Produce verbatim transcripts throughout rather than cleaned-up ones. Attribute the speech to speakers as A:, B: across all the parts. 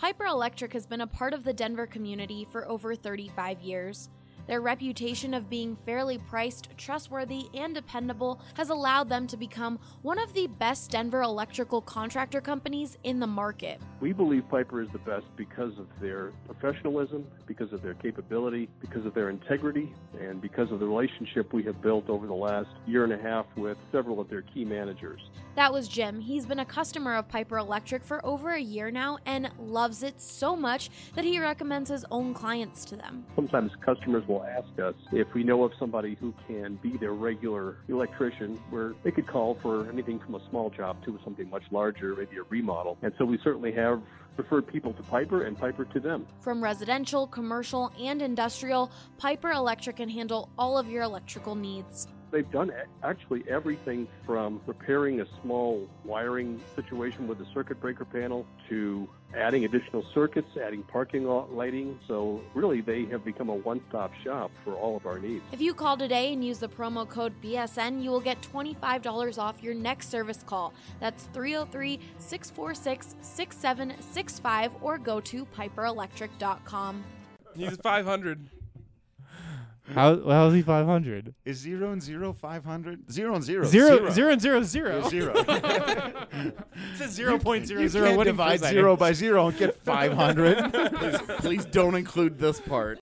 A: Piper Electric has been a part of the Denver community for over thirty-five years. Their reputation of being fairly priced, trustworthy, and dependable has allowed them to become one of the best Denver electrical contractor companies in the market.
B: We believe Piper is the best because of their professionalism, because of their capability, because of their integrity, and because of the relationship we have built over the last year and a half with several of their key managers.
A: That was Jim. He's been a customer of Piper Electric for over a year now and loves it so much that he recommends his own clients to them.
B: Sometimes customers will ask us if we know of somebody who can be their regular electrician, where they could call for anything from a small job to something much larger, maybe a remodel. And so we certainly have referred people to Piper and Piper to them.
A: From residential, commercial, and industrial, Piper Electric can handle all of your electrical needs.
B: They've done actually everything from repairing a small wiring situation with a circuit breaker panel to adding additional circuits, adding parking lot lighting. So really, they have become a one-stop shop for all of our needs.
A: If you call today and use the promo code B S N, you will get twenty-five dollars off your next service call. That's three oh three, six four six, six seven six five or go to piper electric dot com.
C: He's five hundred.
D: How how is he five hundred?
E: Is zero and zero five hundred? Zero and zero.
D: Zero, zero and zero, zero.
E: Zero.
D: It says zero point zero
E: You
D: zero.
E: can't
D: What
E: divide zero by zero and get five hundred.
F: please, please don't include this part.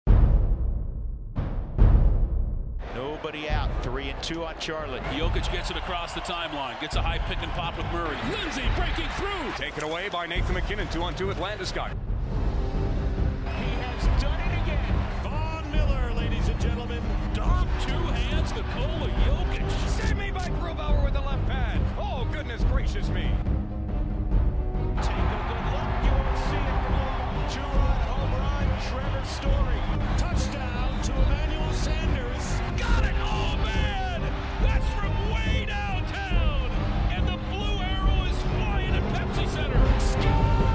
G: Nobody out. Three and two on Charlotte.
H: Jokic gets it across the timeline. Gets a high pick and pop with Murray. Lindsay breaking through.
I: Taken away by Nathan McKinnon. Two on two with Landeskog.
H: He has done it again. Von Miller, ladies and gentlemen. Dom, two hands, Nikola Jokic.
I: Save me by Grubauer with the left pad. Oh, goodness gracious me.
H: Take a good look. You won't see it for long. Two-run home run, Trevor Story. Touchdown to Emmanuel Sanders. Got it! Oh, man! That's from way downtown. And the blue arrow is flying at Pepsi Center. Score!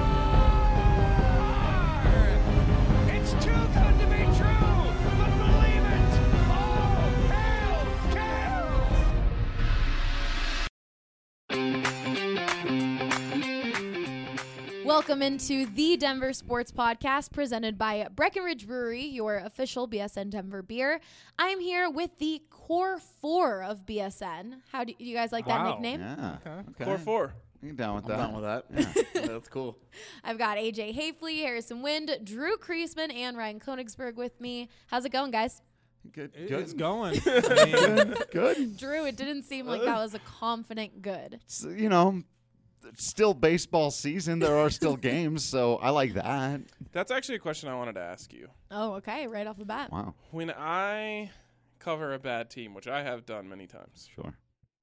H: It's too good to be true, but believe it! Oh, hell,
A: Cal! Welcome into the Denver Sports Podcast presented by Breckenridge Brewery, your official B S N Denver beer. I'm here with the Core Four of B S N. How do you guys like
C: Wow.
A: that nickname?
E: Yeah.
C: Okay. Core four.
E: You down with
F: I'm
E: that?
F: down with that.
E: Yeah.
F: That's cool.
A: I've got A J Hafley, Harrison Wind, Drew Kreisman, and Ryan Konigsberg with me. How's it going, guys?
E: Good.
C: It-
E: Good.
C: It's going. I mean,
E: Good.
A: Drew, it didn't seem like that was a confident good.
E: It's, you know, it's still baseball season. There are still games, so I like that.
C: that's actually a question I wanted to ask you.
A: Oh, okay, right off the bat.
E: Wow.
C: When I cover a bad team, which I have done many times,
E: Sure.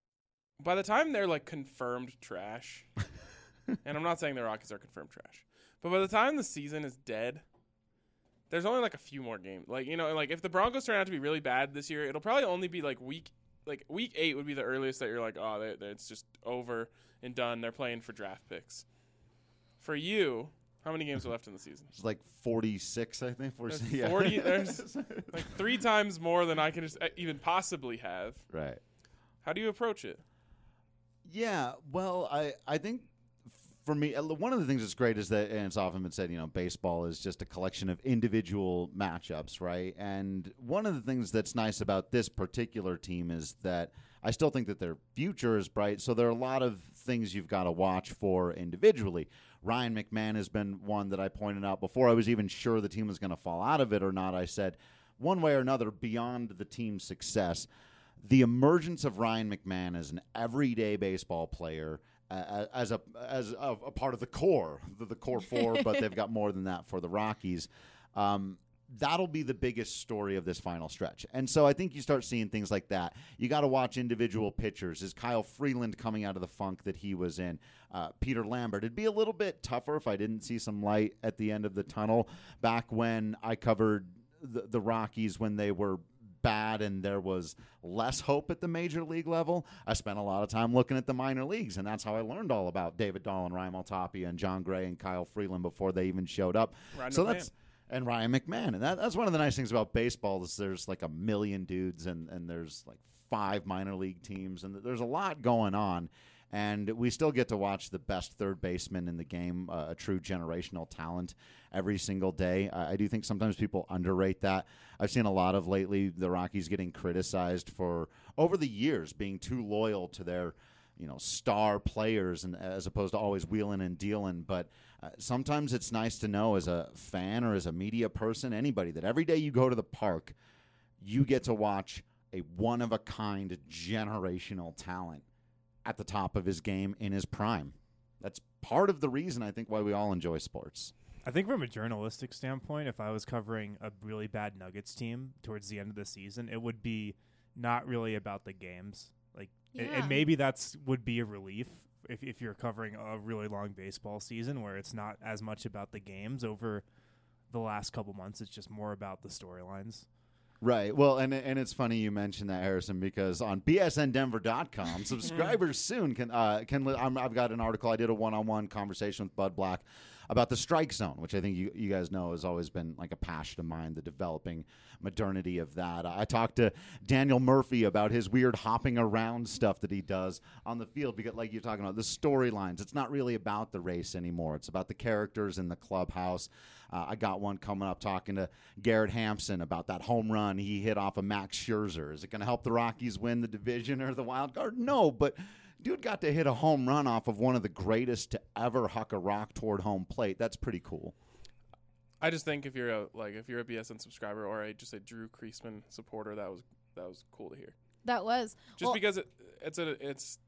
C: by the time they're like confirmed trash, and I'm not saying the Rockies are confirmed trash, but by the time the season is dead, there's only like a few more games. Like, you know, like if the Broncos turn out to be really bad this year, it'll probably only be like week, like week eight would be the earliest that you're like, oh, they, they, it's just over and done. They're playing for draft picks. For you, how many games are left in the season?
E: It's like forty-six, I think.
C: There's
E: forty, yeah.
C: forty. There's like three times more than I can just uh, even possibly have.
E: Right.
C: How do you approach it?
E: Yeah, well, I, I think for me, uh, one of the things that's great is that, and it's often been said, you know, baseball is just a collection of individual matchups, right? And one of the things that's nice about this particular team is that I still think that their future is bright, so there are a lot of things you've got to watch for individually. Ryan McMahon has been one that I pointed out before I was even sure the team was going to fall out of it or not. I said, one way or another, beyond the team's success, the emergence of Ryan McMahon as an everyday baseball player, uh, as a as a, a part of the core, the, the core four, but they've got more than that for the Rockies. Um, that'll be the biggest story of this final stretch. And so I think you start seeing things like that. You got to watch individual pitchers. Is Kyle Freeland coming out of the funk that he was in? Uh, Peter Lambert. It'd be a little bit tougher if I didn't see some light at the end of the tunnel back when I covered the, the Rockies when they were bad and there was less hope at the major league level. I spent a lot of time looking at the minor leagues, and that's how I learned all about David Dahl and Ryan Maltapia and John Gray and Kyle Freeland before they even showed up.
C: Ryan
E: so
C: McMahon.
E: that's and Ryan McMahon. And that, that's one of the nice things about baseball is there's like a million dudes and, and there's like five minor league teams, and there's a lot going on. And we still get to watch the best third baseman in the game, uh, a true generational talent, every single day. I, I do think sometimes people underrate that. I've seen a lot of lately the Rockies getting criticized for, over the years, being too loyal to their, you know, star players, and as opposed to always wheeling and dealing. But uh, sometimes it's nice to know as a fan or as a media person, anybody, that every day you go to the park, you get to watch a one-of-a-kind generational talent at the top of his game in his prime. That's part of the reason, I think, why we all enjoy sports.
D: I think from a journalistic standpoint, if I was covering a really bad Nuggets team towards the end of the season, it would be not really about the games. Like,
A: Yeah.
D: and, and maybe that's would be a relief if if you're covering a really long baseball season where it's not as much about the games over the last couple months. It's just more about the storylines.
E: Right. Well, and and it's funny you mentioned that, Harrison, because on B S N Denver dot com, subscribers soon can uh, can. Li- I'm, I've got an article. I did a one-on-one conversation with Bud Black about the strike zone, which I think you, you guys know has always been like a passion of mine, the developing modernity of that. I talked to Daniel Murphy about his weird hopping around stuff that he does on the field, because like you're talking about, the storylines, it's not really about the race anymore. It's about the characters in the clubhouse. Uh, I got one coming up talking to Garrett Hampson about that home run he hit off of Max Scherzer. Is it going to help the Rockies win the division or the wild card? No, but dude got to hit a home run off of one of the greatest to ever huck a rock toward home plate. That's pretty cool.
C: I just think if you're a like if you're a B S N subscriber or a just a Drew Kreisman supporter, that was that was cool to hear.
A: That was
C: Just
A: well,
C: because it it's a it's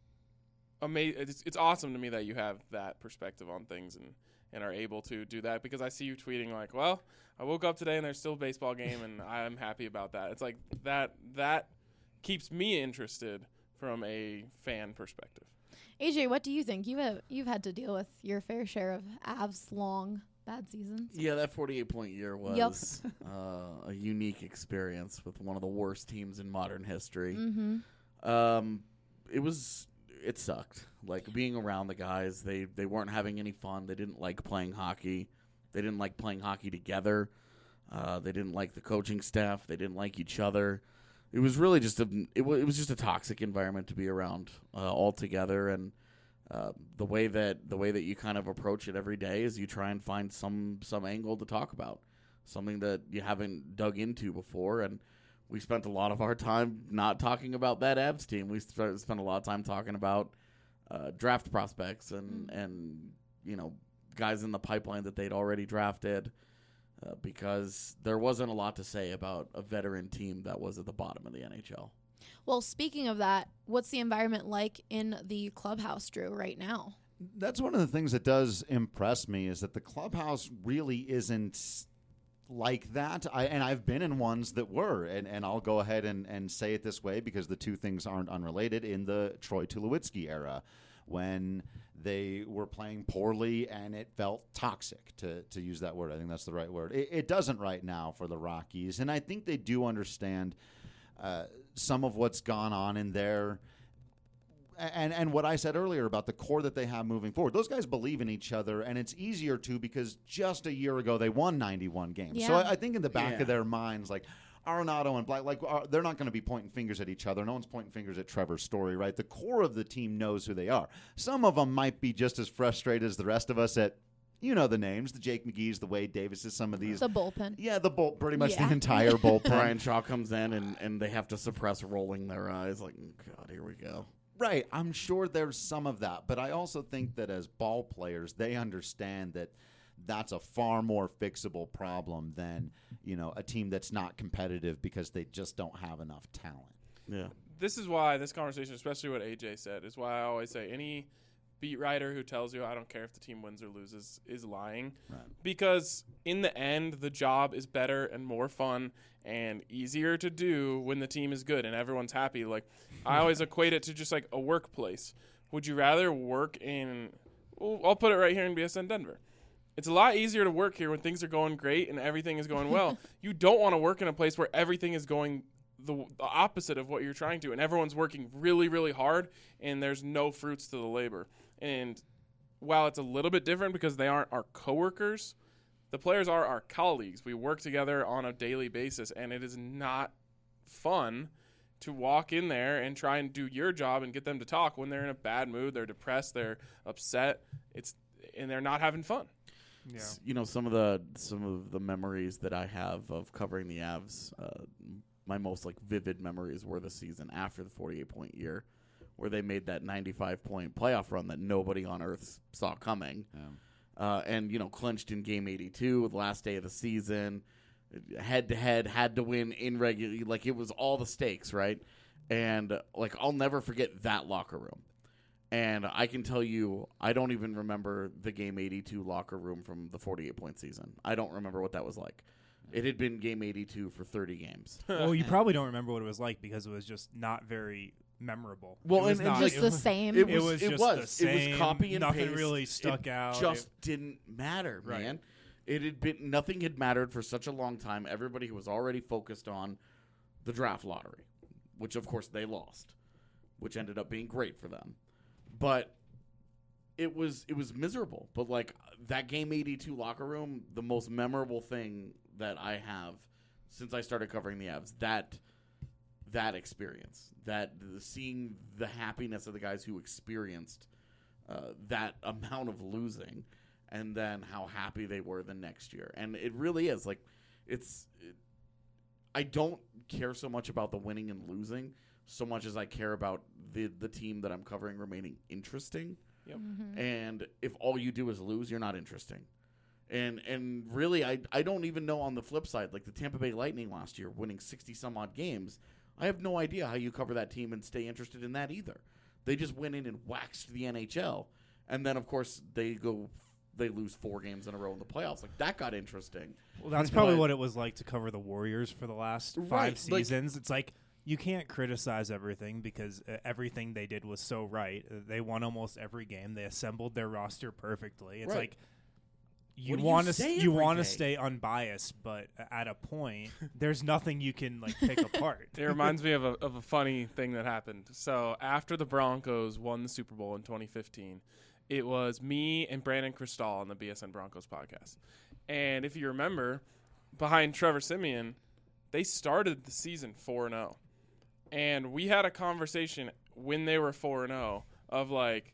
C: amazing. It's, it's awesome to me that you have that perspective on things and, and are able to do that, because I see you tweeting like, well, I woke up today and there's still a baseball game and I'm happy about that. It's like that that keeps me interested from a fan perspective.
A: A J, what do you think? You have you've had to deal with your fair share of Avs long bad seasons.
F: Yeah, that forty-eight point year was
A: Yep.
F: uh, a unique experience with one of the worst teams in modern history.
A: Mm-hmm.
F: Um, it was it sucked. Like being around the guys, they they weren't having any fun. They didn't like playing hockey. They didn't like playing hockey together. Uh, they didn't like the coaching staff. They didn't like each other. It was really just a it, w- it was just a toxic environment to be around uh, altogether. And uh, the way that the way that you kind of approach it every day is you try and find some some angle to talk about, something that you haven't dug into before. And we spent a lot of our time not talking about that Avs team. We st- spent a lot of time talking about uh, draft prospects and
A: Mm.
F: and you know guys in the pipeline that they'd already drafted. Uh, because there wasn't a lot to say about a veteran team that was at the bottom of the N H L.
A: Well, speaking of that, what's the environment like in the clubhouse, Drew, right now?
E: That's one of the things that does impress me, is that the clubhouse really isn't like that. I, and I've been in ones that were, and, and I'll go ahead and, and say it this way because the two things aren't unrelated. In the Troy Tulowitzki era, when they were playing poorly and it felt toxic, to, to use that word. I think that's the right word. It, it doesn't right now for the Rockies, and I think they do understand uh, some of what's gone on in there. And and what I said earlier about the core that they have moving forward. Those guys believe in each other, and it's easier to because just a year ago they won ninety-one games. So
A: Yeah.
E: I, I think in the back
F: Yeah.
E: of their minds, like, Arenado and Black, like uh, they're not going to be pointing fingers at each other. No one's pointing fingers at Trevor Story, right? The core of the team knows who they are. Some of them might be just as frustrated as the rest of us at, you know, the names, the Jake McGee's, the Wade Davises, some of these.
A: The bullpen.
E: Yeah, the bull, pretty much
A: Yeah.
E: the entire bullpen.
F: Brian Shaw comes in and, and they have to suppress rolling their eyes like, God, here we go.
E: Right. I'm sure there's some of that. But I also think that as ball players, they understand that that's a far more fixable problem than, you know, a team that's not competitive because they just don't have enough talent.
F: Yeah.
C: This is why this conversation, especially what A J said, is why I always say any beat writer who tells you I don't care if the team wins or loses is lying.
E: Right.
C: Because in the end, the job is better and more fun and easier to do when the team is good and everyone's happy. Like, I always equate it to just like a workplace. Would you rather work in, well, I'll put it right here in B S N Denver. It's a lot easier to work here when things are going great and everything is going well. You don't want to work in a place where everything is going the, the opposite of what you're trying to, and everyone's working really, really hard, and there's no fruits to the labor. And while it's a little bit different because they aren't our coworkers, the players are our colleagues. We work together on a daily basis, and it is not fun to walk in there and try and do your job and get them to talk when they're in a bad mood, they're depressed, they're upset, it's and they're not having fun.
D: Yeah.
F: You know, some of the some of the memories that I have of covering the Avs, uh, my most like vivid memories were the season after the forty-eight point year, where they made that ninety-five point playoff run that nobody on earth saw coming,
E: Yeah.
F: uh, and you know clinched in Game eighty-two, the last day of the season, head to head, had to win in regular, like it was all the stakes, right? And uh, like I'll never forget that locker room. And I can tell you, I don't even remember the Game eighty-two locker room from the forty-eight point season. I don't remember what that was like. It had been Game eighty-two for thirty games.
D: Well, you probably don't remember what it was like because it was just not very memorable.
F: Well,
D: it was
F: and- and
D: not,
J: Just
D: it
J: the
D: was,
J: same.
F: It
D: It
F: was.
D: was
F: It
D: just
F: was.
D: the
F: It
D: same.
F: was copy and
D: Nothing
F: paste.
D: really stuck
F: It
D: out.
F: Just didn't matter,
D: Right.
F: man. It had been nothing had mattered for such a long time. Everybody was already focused on the draft lottery, which of course they lost, which ended up being great for them. But it was it was miserable. But like that Game eighty-two locker room, the most memorable thing that I have since I started covering the Avs, that that experience, that the, seeing the happiness of the guys who experienced uh, that amount of losing, and then how happy they were the next year. And it really is like it's. It, I don't care so much about the winning and losing so much as I care about the the team that I'm covering remaining interesting.
C: Yep.
J: Mm-hmm.
F: And if all you do is lose, you're not interesting. And and really, I I don't even know on the flip side, like the Tampa Bay Lightning last year, winning sixty some odd games. I have no idea how you cover that team and stay interested in that either. They just went in and waxed the N H L, and then of course they go, they lose four games in a row in the playoffs. Like that got interesting.
D: Well, that's probably
F: But-
D: what it was like to cover the Warriors for the last five
F: Right, like-
D: seasons. It's like you can't criticize everything because uh, everything they did was so right. Uh, they won almost every game. They assembled their roster perfectly. It's
F: Right.
D: like you
F: What do you
D: want to
F: say
D: you
F: every
D: want to
F: day?
D: stay unbiased, but at a point, there's nothing you can like pick apart.
C: It reminds me of a of a funny thing that happened. So after the Broncos won the Super Bowl in twenty fifteen, it was me and Brandon Cristal on the B S N Broncos podcast. And if you remember, behind Trevor Siemian, they started the season four and oh. And we had a conversation when they were four and oh of like,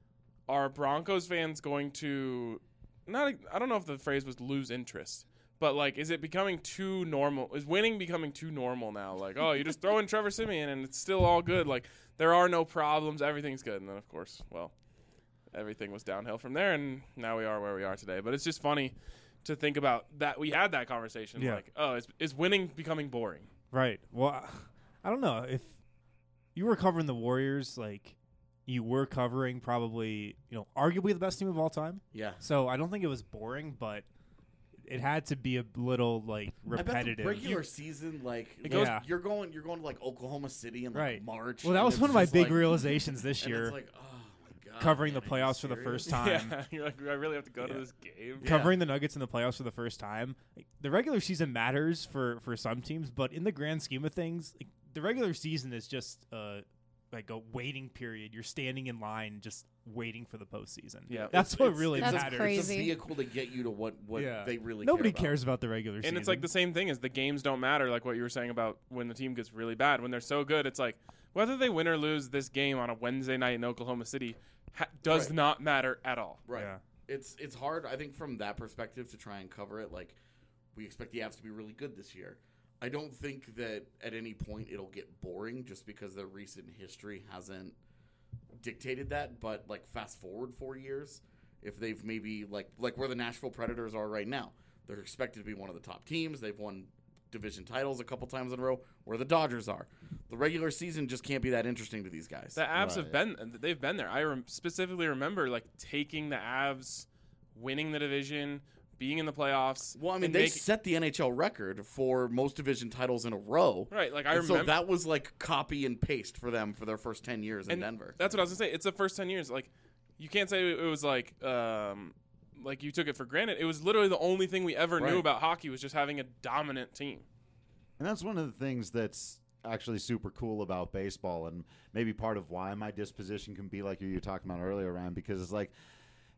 C: are Broncos fans going to not I don't know if the phrase was lose interest, but like, is it becoming too normal? Is winning becoming too normal now? Like, oh, you just throw in Trevor Siemian and it's still all good. Like, there are no problems, everything's good. And then of course, well, everything was downhill from there, and now we are where we are today. But it's just funny to think about that we had that conversation.
D: Yeah.
C: Like, oh, is is winning becoming boring?
D: Right. Well, I don't know if you were covering the Warriors, like you were covering probably, you know, arguably the best team of all time.
F: Yeah.
D: So I don't think it was boring, but it had to be a little like repetitive.
F: I bet the regular season, like,
D: It
F: goes,
D: goes-
F: you're going, you're going to like Oklahoma City in like
D: Right.
F: March.
D: Well, that
F: and
D: was
F: it's
D: one of my
F: just
D: big
F: like-
D: realizations this
F: and
D: year.
F: It's like, oh my god,
D: Covering
F: man,
D: the
F: are you
D: playoffs for the
F: serious?
D: first time.
C: Yeah, you're like, do I really have to go to this game?
F: Yeah.
D: Covering the Nuggets in the playoffs for the first time. Like, the regular season matters for, for some teams, but in the grand scheme of things, like, the regular season is just uh, like a waiting period. You're standing in line just waiting for the postseason.
C: Yeah.
D: That's
F: It's-
D: what
F: it's-
D: really
J: That's
D: matters.
J: crazy.
F: It's a vehicle to get you to what, what
D: Yeah.
F: they really
D: Nobody
F: care about.
D: cares about the regular season.
C: And it's like the same thing as the games don't matter, like what you were saying about when the team gets really bad. When they're so good, it's like whether they win or lose this game on a Wednesday night in Oklahoma City ha- does
F: Right.
C: not matter at all.
F: Right.
D: Yeah.
F: It's it's hard, I think, from that perspective to try and cover it. Like, we expect the Avs to be really good this year. I don't think that at any point it'll get boring just because their recent history hasn't dictated that. But, like, fast forward four years, if they've maybe, like, like where the Nashville Predators are right now, they're expected to be one of the top teams. They've won division titles a couple times in a row, where the Dodgers are. The regular season just can't be that interesting to these guys.
C: The Avs have
E: Right.
C: been they've been there. I rem- specifically remember like taking the Avs, winning the division, being in the playoffs.
F: Well, I mean,
C: and
F: they
C: make-
F: set the N H L record for most division titles in a row.
C: right. Like I
F: And
C: remember
F: so that was like copy and paste for them for their first ten years in
C: and
F: Denver.
C: That's what I was gonna say. It's the first ten years. Like you can't say it was like um like you took it for granted. It was literally the only thing we ever
F: Right.
C: knew about hockey was just having a dominant team.
E: And that's one of the things that's actually super cool about baseball, and maybe part of why my disposition can be like you were talking about earlier, Ryan, because it's like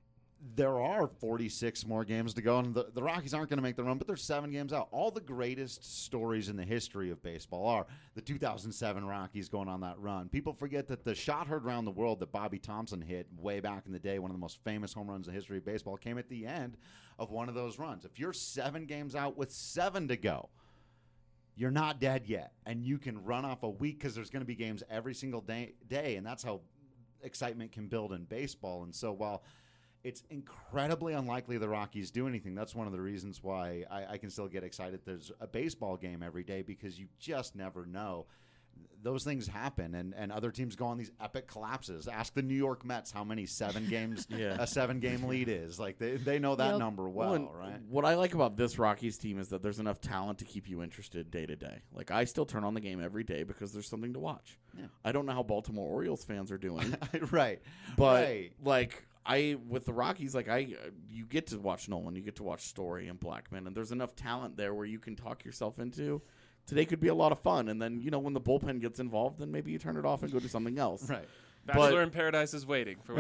E: there are forty-six more games to go, and the, the Rockies aren't going to make the run, but they're seven games out. All the greatest stories in the history of baseball are the two thousand seven Rockies going on that run. People forget that the shot heard around the world that Bobby Thompson hit way back in the day, one of the most famous home runs in the history of baseball, came at the end of one of those runs. If you're seven games out with seven to go, you're not dead yet, and you can run off a week because there's going to be games every single day, day, and that's how excitement can build in baseball. And so while it's incredibly unlikely the Rockies do anything, that's one of the reasons why I, I can still get excited there's a baseball game every day, because you just never know. Those things happen, and, and other teams go on these epic collapses. Ask the New York Mets how many seven games
F: Yeah.
E: a seven-game lead is. Like they, they know that
A: Yep.
E: number well,
F: Well, and
E: right?
F: What I like about this Rockies team is that there's enough talent to keep you interested day to day. Like, I still turn on the game every day because there's something to watch.
E: Yeah.
F: I don't know how Baltimore Orioles fans are doing,
E: right.
F: but
E: right.
F: like I with the Rockies, like I, you get to watch Nolan, you get to watch Story and Blackman, and there's enough talent there where you can talk yourself into. Today could be a lot of fun, and then you know when the bullpen gets involved, then maybe you turn it off and go do something else.
E: Right.
C: Bachelor
F: But-
C: in Paradise is waiting for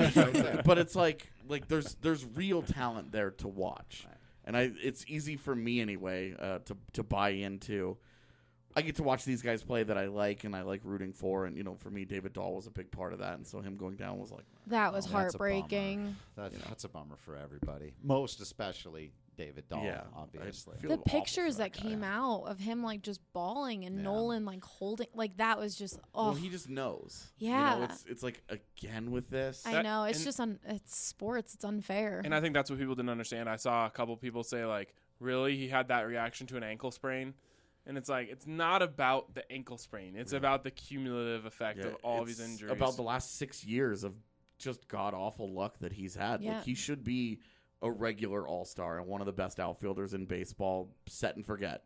F: But it's like like there's there's real talent there to watch,
E: Right.
F: and I it's easy for me anyway uh, to to buy into. I get to watch these guys play that I like and I like rooting for, and you know for me David Dahl was a big part of that, and so him going down was like
A: That was
E: Oh, that's a bummer.
A: heartbreaking.
E: That's, that's a bummer for everybody. Most especially David Dahl,
F: Yeah,
E: obviously.
F: I feel
A: The
F: awful
A: pictures
F: for
A: that
F: that guy.
A: came out of him like just bawling and
E: Yeah.
A: Nolan like holding, like that was just oh
F: well he just knows. You
A: Yeah.
F: know, it's it's like again with this.
A: I
C: That-
A: know it's
C: and-
A: just un, it's sports, it's unfair.
C: And I think that's what people didn't understand. I saw a couple people say, like, really? He had that reaction to an ankle sprain? And it's like, it's not about the ankle sprain. It's about the cumulative effect
F: Yeah,
C: of all of
F: it's
C: his injuries.
F: About the last six years of just god awful luck that he's had.
A: Yeah.
F: Like he should be a regular all star and one of the best outfielders in baseball, set and forget.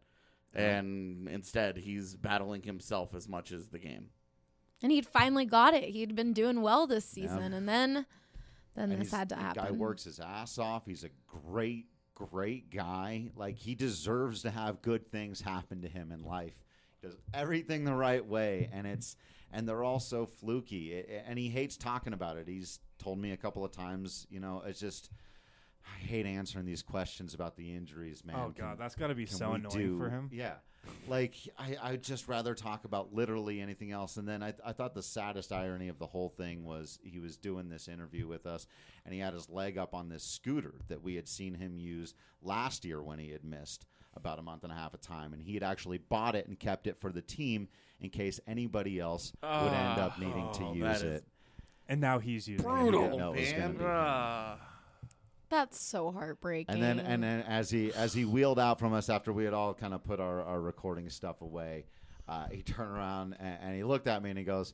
F: And instead, he's battling himself as much as the game.
A: And he'd finally got it. He'd been doing well this
E: Yeah.
A: season, and then then
E: And
A: this
E: he's-
A: had to
E: the
A: happen.
E: guy works his ass off. He's a great, great guy. Like, he deserves to have good things happen to him in life. He does everything the right way, and it's and they're all so fluky. I- and he hates talking about it. He's told me a couple of times, you know, it's just I hate answering these questions about the injuries, man.
D: Oh
E: Can-
D: God, that's got to be
E: can
D: so
E: we
D: annoying
E: do-
D: for him.
E: Yeah. Like, I, I'd just rather talk about literally anything else. And then I, I thought the saddest irony of the whole thing was he was doing this interview with us, and he had his leg up on this scooter that we had seen him use last year when he had missed about a month and a half of time. And he had actually bought it and kept it for the team in case anybody else would end up needing to
F: Oh,
E: use
F: that is
E: it.
D: And now he's using
E: And he
D: it.
E: didn't know it was gonna
F: man.
E: be him.
C: Ah.
A: That's so heartbreaking.
E: And then and then as he as he wheeled out from us after we had all kind of put our, our recording stuff away, uh, he turned around and, and he looked at me and he goes,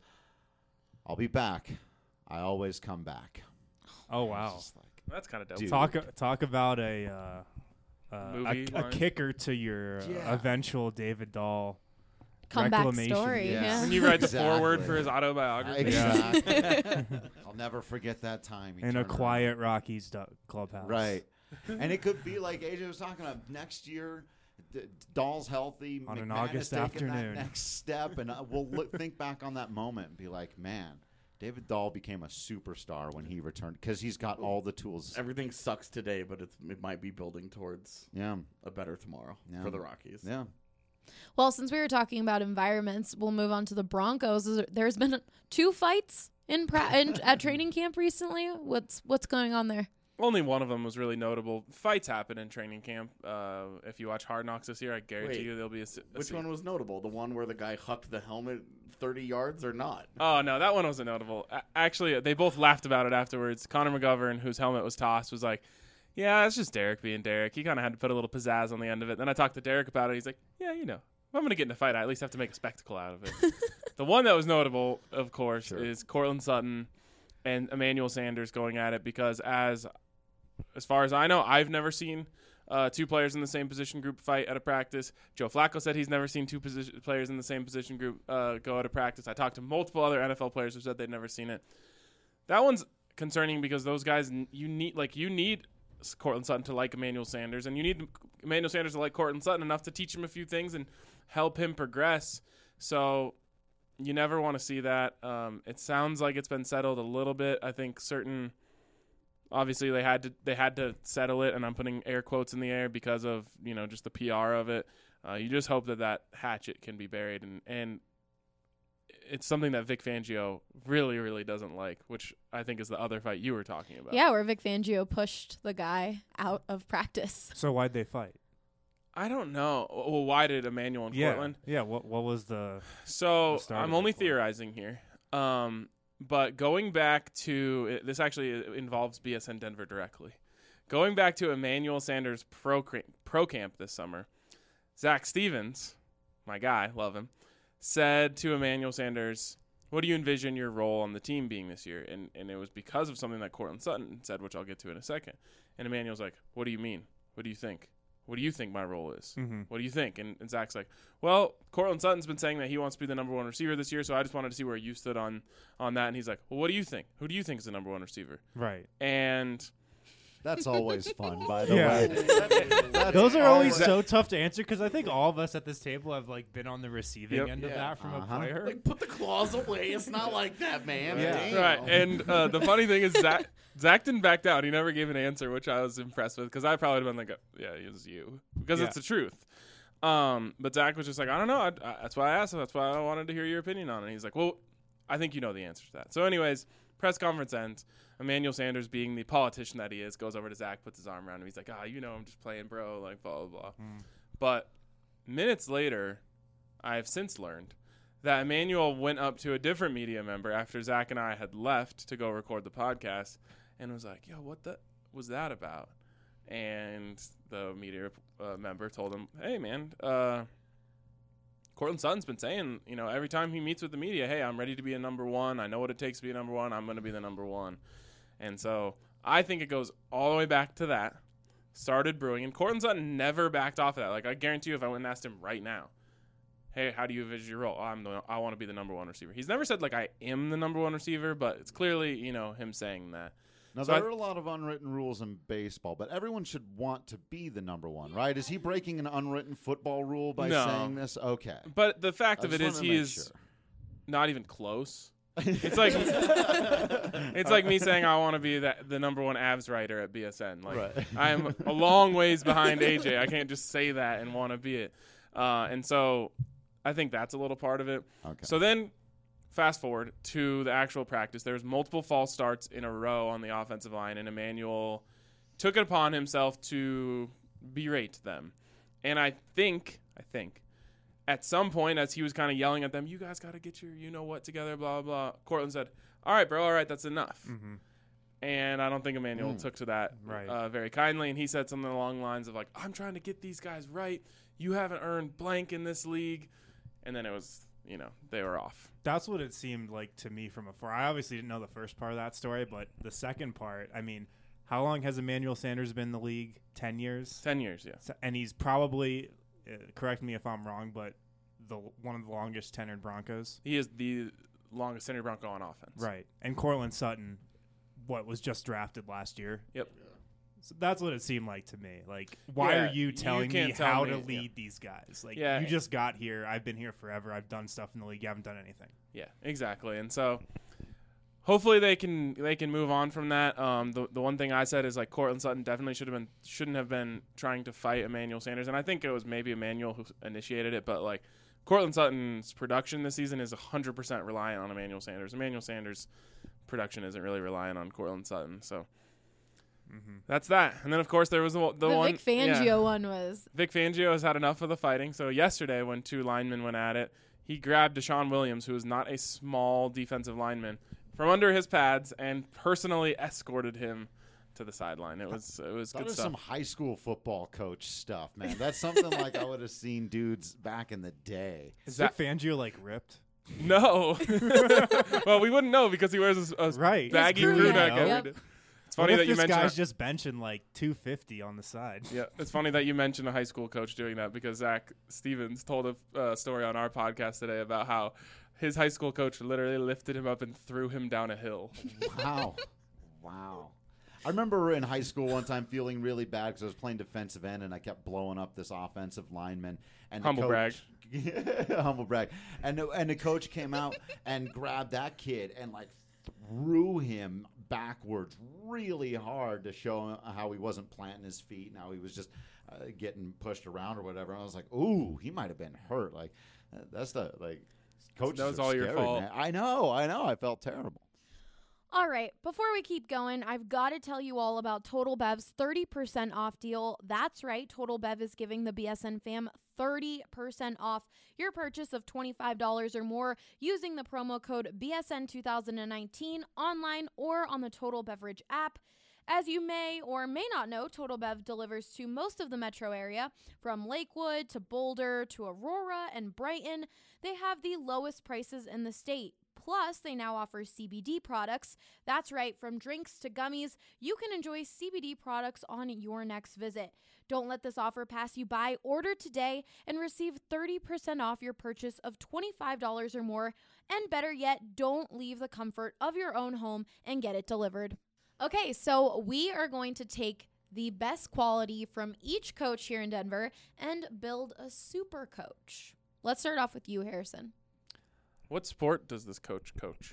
E: "I'll be back. I always come back."
D: Oh
E: I was
D: wow.
E: just like,
C: That's kind of dope.
E: Dude.
D: Talk talk about a uh, uh,
C: Movie
D: a, a
C: line?
D: kicker to your uh,
E: Yeah.
D: eventual David Dahl
A: comeback
D: reclamation.
A: story.
E: Yes.
A: Yeah.
C: When you write the
E: Exactly.
C: foreword for his autobiography.
E: Exactly. I'll never forget that time. He
D: in a
E: turned around.
D: quiet Rockies du- clubhouse.
E: Right. And it could be like A J was talking about next year. D- Dahl's healthy.
D: On an
E: McMahon
D: August
E: has taken
D: afternoon.
E: That next step, and uh, we'll look, think back on that moment and be like, man, David Dahl became a superstar when he returned because he's got all the tools.
F: Everything sucks today, but it's, it might be building towards
E: Yeah.
F: a better tomorrow
E: Yeah.
F: for the Rockies.
E: Yeah.
A: Well, since we were talking about environments, we'll move on to the Broncos. Is there- There's been two fights in, pra- in at training camp recently. What's what's going on there?
C: Only one of them was really notable. Fights happen in training camp. Uh, if you watch Hard Knocks this year, I guarantee
F: Wait,
C: you there'll be a. s- a
F: Which
C: scene.
F: one was notable? The one where the guy hucked the helmet thirty yards or not?
C: Oh no, that one wasn't notable. A- Actually, they both laughed about it afterwards. Connor McGovern, whose helmet was tossed, was like, "Yeah, it's just Derek being Derek. He kind of had to put a little pizzazz on the end of it." Then I talked to Derek about it. He's like, "Yeah, you know, if I'm gonna get in a fight, I at least have to make a spectacle out of it." The one that was notable, of course,
E: Sure.
C: is Cortland Sutton and Emmanuel Sanders going at it because, as as far as I know, I've never seen uh, two players in the same position group fight at a practice. Joe Flacco said he's never seen two position players in the same position group uh, go at a practice. I talked to multiple other N F L players who said they'd never seen it. That one's concerning because those guys, you need like you need Cortland Sutton to like Emmanuel Sanders, and you need Emmanuel Sanders to like Cortland Sutton enough to teach him a few things and help him progress. So you never want to see that. Um, it sounds like it's been settled a little bit. I think certain obviously they had to they had to settle it, and I'm putting air quotes in the air because of, you know, just the P R of it. Uh, you just hope that that hatchet can be buried, and, and it's something that Vic Fangio really, really doesn't like, which I think is the other fight you were talking about.
J: Yeah, where Vic Fangio pushed the guy out of practice.
D: So why'd they fight?
C: I don't know. Well, why did Emmanuel and
D: Yeah,
C: Cortland?
D: yeah. What what was the?
C: So
D: the start
C: I'm
D: of it
C: only
D: for?
C: theorizing here. Um, but going back to this actually involves B S N Denver directly. Going back to Emmanuel Sanders pro pro camp this summer, Zach Stevens, my guy, love him, said to Emmanuel Sanders, "What do you envision your role on the team being this year?" And and it was because of something that Cortland Sutton said, which I'll get to in a second. And Emmanuel's like, "What do you mean? What do you think? What do you think my role is?
D: Mm-hmm.
C: What do you think?" And, and Zach's like, "Well, Cortland Sutton's been saying that he wants to be the number one receiver this year, so I just wanted to see where you stood on on that." And he's like, "Well, what do you think? Who do you think is the number one receiver?"
D: Right.
C: And
E: That's always fun, by the
D: Yeah.
E: way. That's
D: Those are always
E: always-
D: so tough to answer because I think all of us at this table have like been on the receiving
C: Yep.
D: end of
F: Yeah.
D: that from
E: Uh-huh.
D: a player.
F: Like, put the claws away. It's not like that, man.
D: Yeah.
F: Damn.
C: right, and uh, the funny thing is Zach Zach didn't back down. He never gave an answer, which I was impressed with because I probably would have been like, "Yeah, it was you," because
D: Yeah.
C: it's the truth. Um, but Zach was just like, "I don't know. I, I, that's why I asked him. That's why I wanted to hear your opinion on it." And he's like, "Well, I think you know the answer to that." So, anyways, press conference ends. Emmanuel Sanders, being the politician that he is, goes over to Zach, puts his arm around him. He's like, "Ah, you know, I'm just playing, bro." Like, blah blah blah.
D: Mm.
C: But minutes later, I have since learned that Emmanuel went up to a different media member after Zach and I had left to go record the podcast, and was like, "Yo, what the was that about?" And the media uh, member told him, "Hey, man, uh, Cortland Sutton's been saying, you know, every time he meets with the media, hey, I'm ready to be a number one. I know what it takes to be a number one. I'm going to be the number one." And so I think it goes all the way back to that. Started brewing, and Cortland Sutton never backed off of that. Like, I guarantee you, if I went and asked him right now, "Hey, how do you envision your role?" Oh, I'm the, I want to be the number one receiver. He's never said, like, I am the number one receiver, but it's clearly, you know, him saying that.
E: Now,
C: So
E: there
C: I-
E: are a lot of unwritten rules in baseball, but everyone should want to be the number one, right? Is he breaking an unwritten football rule by
C: No.
E: saying this? Okay.
C: But the fact
E: I
C: of it
E: just
C: is,
E: wanted
C: he
E: to
C: is
E: make sure.
C: not even close. It's like it's like me saying I want to be the, the number one abs writer at B S N. Like,
E: Right.
C: I am a long ways behind A J. I can't just say that and want to be it. Uh, and so I think that's a little part of it.
E: Okay.
C: So then fast forward to the actual practice. There's multiple false starts in a row on the offensive line, and Emmanuel took it upon himself to berate them. And I think, I think, at some point, as he was kind of yelling at them, "You guys got to get your you-know-what together, blah, blah, blah," Cortland said, "All right, bro, all right, that's enough."
D: Mm-hmm.
C: And I don't think Emmanuel
E: Mm.
C: took to that
D: Right.
C: uh, very kindly. And he said something along the lines of, like, "I'm trying to get these guys right. You haven't earned blank in this league." And then it was, you know, they were off.
D: That's what it seemed like to me from afar. I obviously didn't know the first part of that story, but the second part, I mean, how long has Emmanuel Sanders been in the league? Ten years?
C: Ten years, yeah.
D: So- And he's probably, uh, correct me if I'm wrong, but the one of the longest tenured Broncos.
C: He is the longest tenured Bronco on offense.
D: Right. And Cortland Sutton, what, was just drafted last year?
C: Yep.
D: So that's what it seemed like to me. Like, why
C: Yeah,
D: are you
C: you
D: telling
C: can't
D: me
C: tell
D: how
C: me,
D: to
C: yeah.
D: lead these guys? Like,
C: Yeah.
D: you just got here. I've been here forever. I've done stuff in the league. You haven't done anything.
C: Yeah, exactly. And so hopefully they can they can move on from that. Um, the the one thing I said is, like, Cortland Sutton definitely should have been shouldn't have been trying to fight Emmanuel Sanders, and I think it was maybe Emmanuel who initiated it, but like Cortland Sutton's production this season is one hundred percent reliant on Emmanuel Sanders. Emmanuel Sanders' production isn't really reliant on Cortland Sutton, so
D: Mm-hmm.
C: that's that. And then of course there was the, the,
J: The,
C: one
J: Vic Fangio
C: yeah.
J: one was
C: Vic Fangio has had enough of the fighting. So yesterday, when two linemen went at it, he grabbed Deshaun Williams, who is not a small defensive lineman, from under his pads and personally escorted him to the sideline. It was it was
E: That
C: good
E: is
C: stuff.
E: some high school football coach stuff, man. That's something like I would have seen dudes back in the day.
C: Is
D: Is
C: that-
D: Vic Fangio, like, ripped?
C: No. Well, we wouldn't know because he wears a, a
D: Right.
C: baggy
J: His
C: crew
J: crew
C: neck
J: neck,
C: every
J: yep.
C: day. It's
D: What
C: funny
D: if
C: that you
D: this
C: mentioned.
D: guy's just benching, like, two fifty on the side?
C: Yeah, it's funny that you mentioned a high school coach doing that because Zach Stevens told a uh, story on our podcast today about how his high school coach literally lifted him up and threw him down a hill.
E: Wow. Wow. I remember in high school one time feeling really bad because I was playing defensive end and I kept blowing up this offensive lineman. And the
C: Humble
E: coach, humble brag. And the, and the coach came out and grabbed that kid and like threw him backwards really hard to show how he wasn't planting his feet and how he was just uh, getting pushed around or whatever. And I was like, ooh, he might have been hurt. Like, uh, that's the, like, coaches
C: That was
E: are
C: all your
E: scary,
C: fault.
E: man. I know, I know. I felt terrible.
A: All right, before we keep going, I've got to tell you all about Total Bev's thirty percent off deal. That's right, Total Bev is giving the B S N fam thirty percent off your purchase of twenty-five dollars or more using the promo code B S N two thousand nineteen online or on the Total Beverage app. As you may or may not know, Total Bev delivers to most of the metro area, from Lakewood to Boulder to Aurora and Brighton. They have the lowest prices in the state. Plus, they now offer C B D products. That's right, from drinks to gummies, you can enjoy C B D products on your next visit. Don't let this offer pass you by. Order today and receive thirty percent off your purchase of twenty-five dollars or more. And better yet, don't leave the comfort of your own home and get it delivered. Okay, so we are going to take the best quality from each coach here in Denver and build a super coach. Let's start off with you, Harrison.
C: What sport does this coach coach?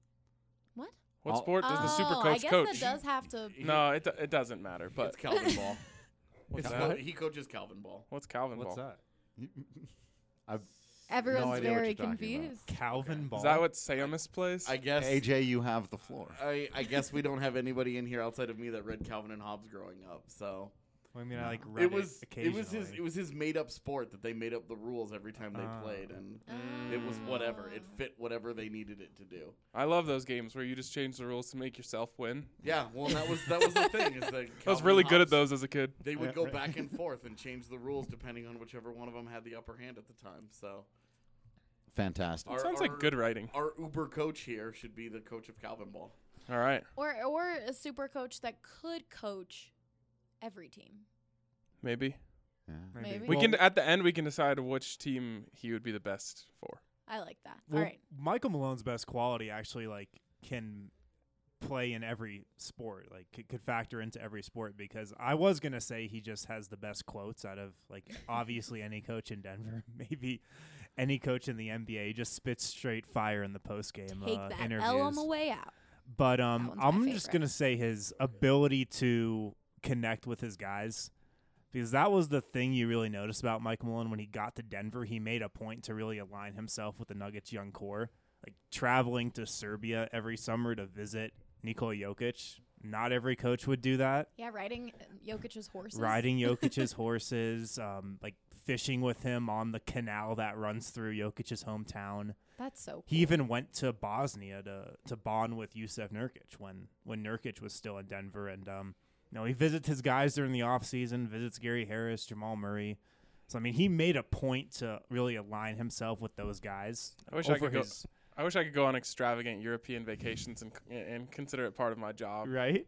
A: What?
C: What
E: Oh.
C: sport does the super
A: Oh,
C: coach
A: I guess
C: coach?
A: that does have to.
C: No, it, do- it doesn't matter. But
F: It's Calvin Ball.
C: what's
F: It's
C: that?
F: what- he coaches Calvin Ball.
C: What's Calvin
D: What's
C: Ball?
D: that?
E: I've
A: Everyone's
E: No idea what
A: very
E: you're talking about.
A: confused.
D: Calvin Ball.
C: Is that what Samus plays?
F: I guess.
E: A J, you have the floor.
F: I, I guess we don't have anybody in here outside of me that read Calvin and Hobbes growing up. So
D: I mean, I like read
F: it was it
D: occasionally.
F: was his it was his made up sport that they made up the rules every time they
D: Ah.
F: played, and it was whatever. It fit whatever they needed it to do.
C: I love those games where you just change the rules to make yourself win.
F: Yeah, well, that was that was the thing. Is that
C: I was
F: Calvin
C: really
F: and
C: good at
F: Hobbes,
C: those as a kid.
F: They would
E: Yeah,
F: go
E: right.
F: back and forth and change the rules depending on whichever one of them had the upper hand at the time. So
E: Fantastic.
F: Our-
C: Sounds
F: our-
C: like good writing.
F: our Uber coach here should be the coach of Calvin Ball.
C: All right,
A: Or or a super coach that could coach every team.
C: maybe
E: Yeah.
A: Maybe.
C: we
D: Well,
C: can at the end we can decide which team he would be the best for.
A: I like that.
D: Well,
A: All right.
D: Michael Malone's best quality actually like can play in every sport, like could, could factor into every sport, because I was gonna say he just has the best quotes out of like obviously any coach in Denver, maybe any coach in the N B A. He just spits straight fire in the post game
A: Take
D: uh,
A: that
D: interviews.
A: L on the way out.
D: But
A: That
D: um,
A: one's my
D: I'm just
A: favorite.
D: gonna say his ability to connect with his guys, because that was the thing you really noticed about Mike Malone when he got to Denver. He made a point to really align himself with the Nuggets' young core, like traveling to Serbia every summer to visit Nikola Jokic. Not every coach would do that.
A: Yeah, riding Jokic's horses.
D: Riding Jokic's horses, um, like fishing with him on the canal that runs through Jokic's hometown.
A: That's so cool.
D: He even went to Bosnia to to bond with Jusuf Nurkic when when Nurkic was still in Denver, and um, you know, he visits his guys during the off season, visits Gary Harris, Jamal Murray. So I mean, he made a point to really align himself with those guys.
C: I wish I
D: over
C: could go-
D: his,
C: I wish I could go on extravagant European vacations and and consider it part of my job.
D: right?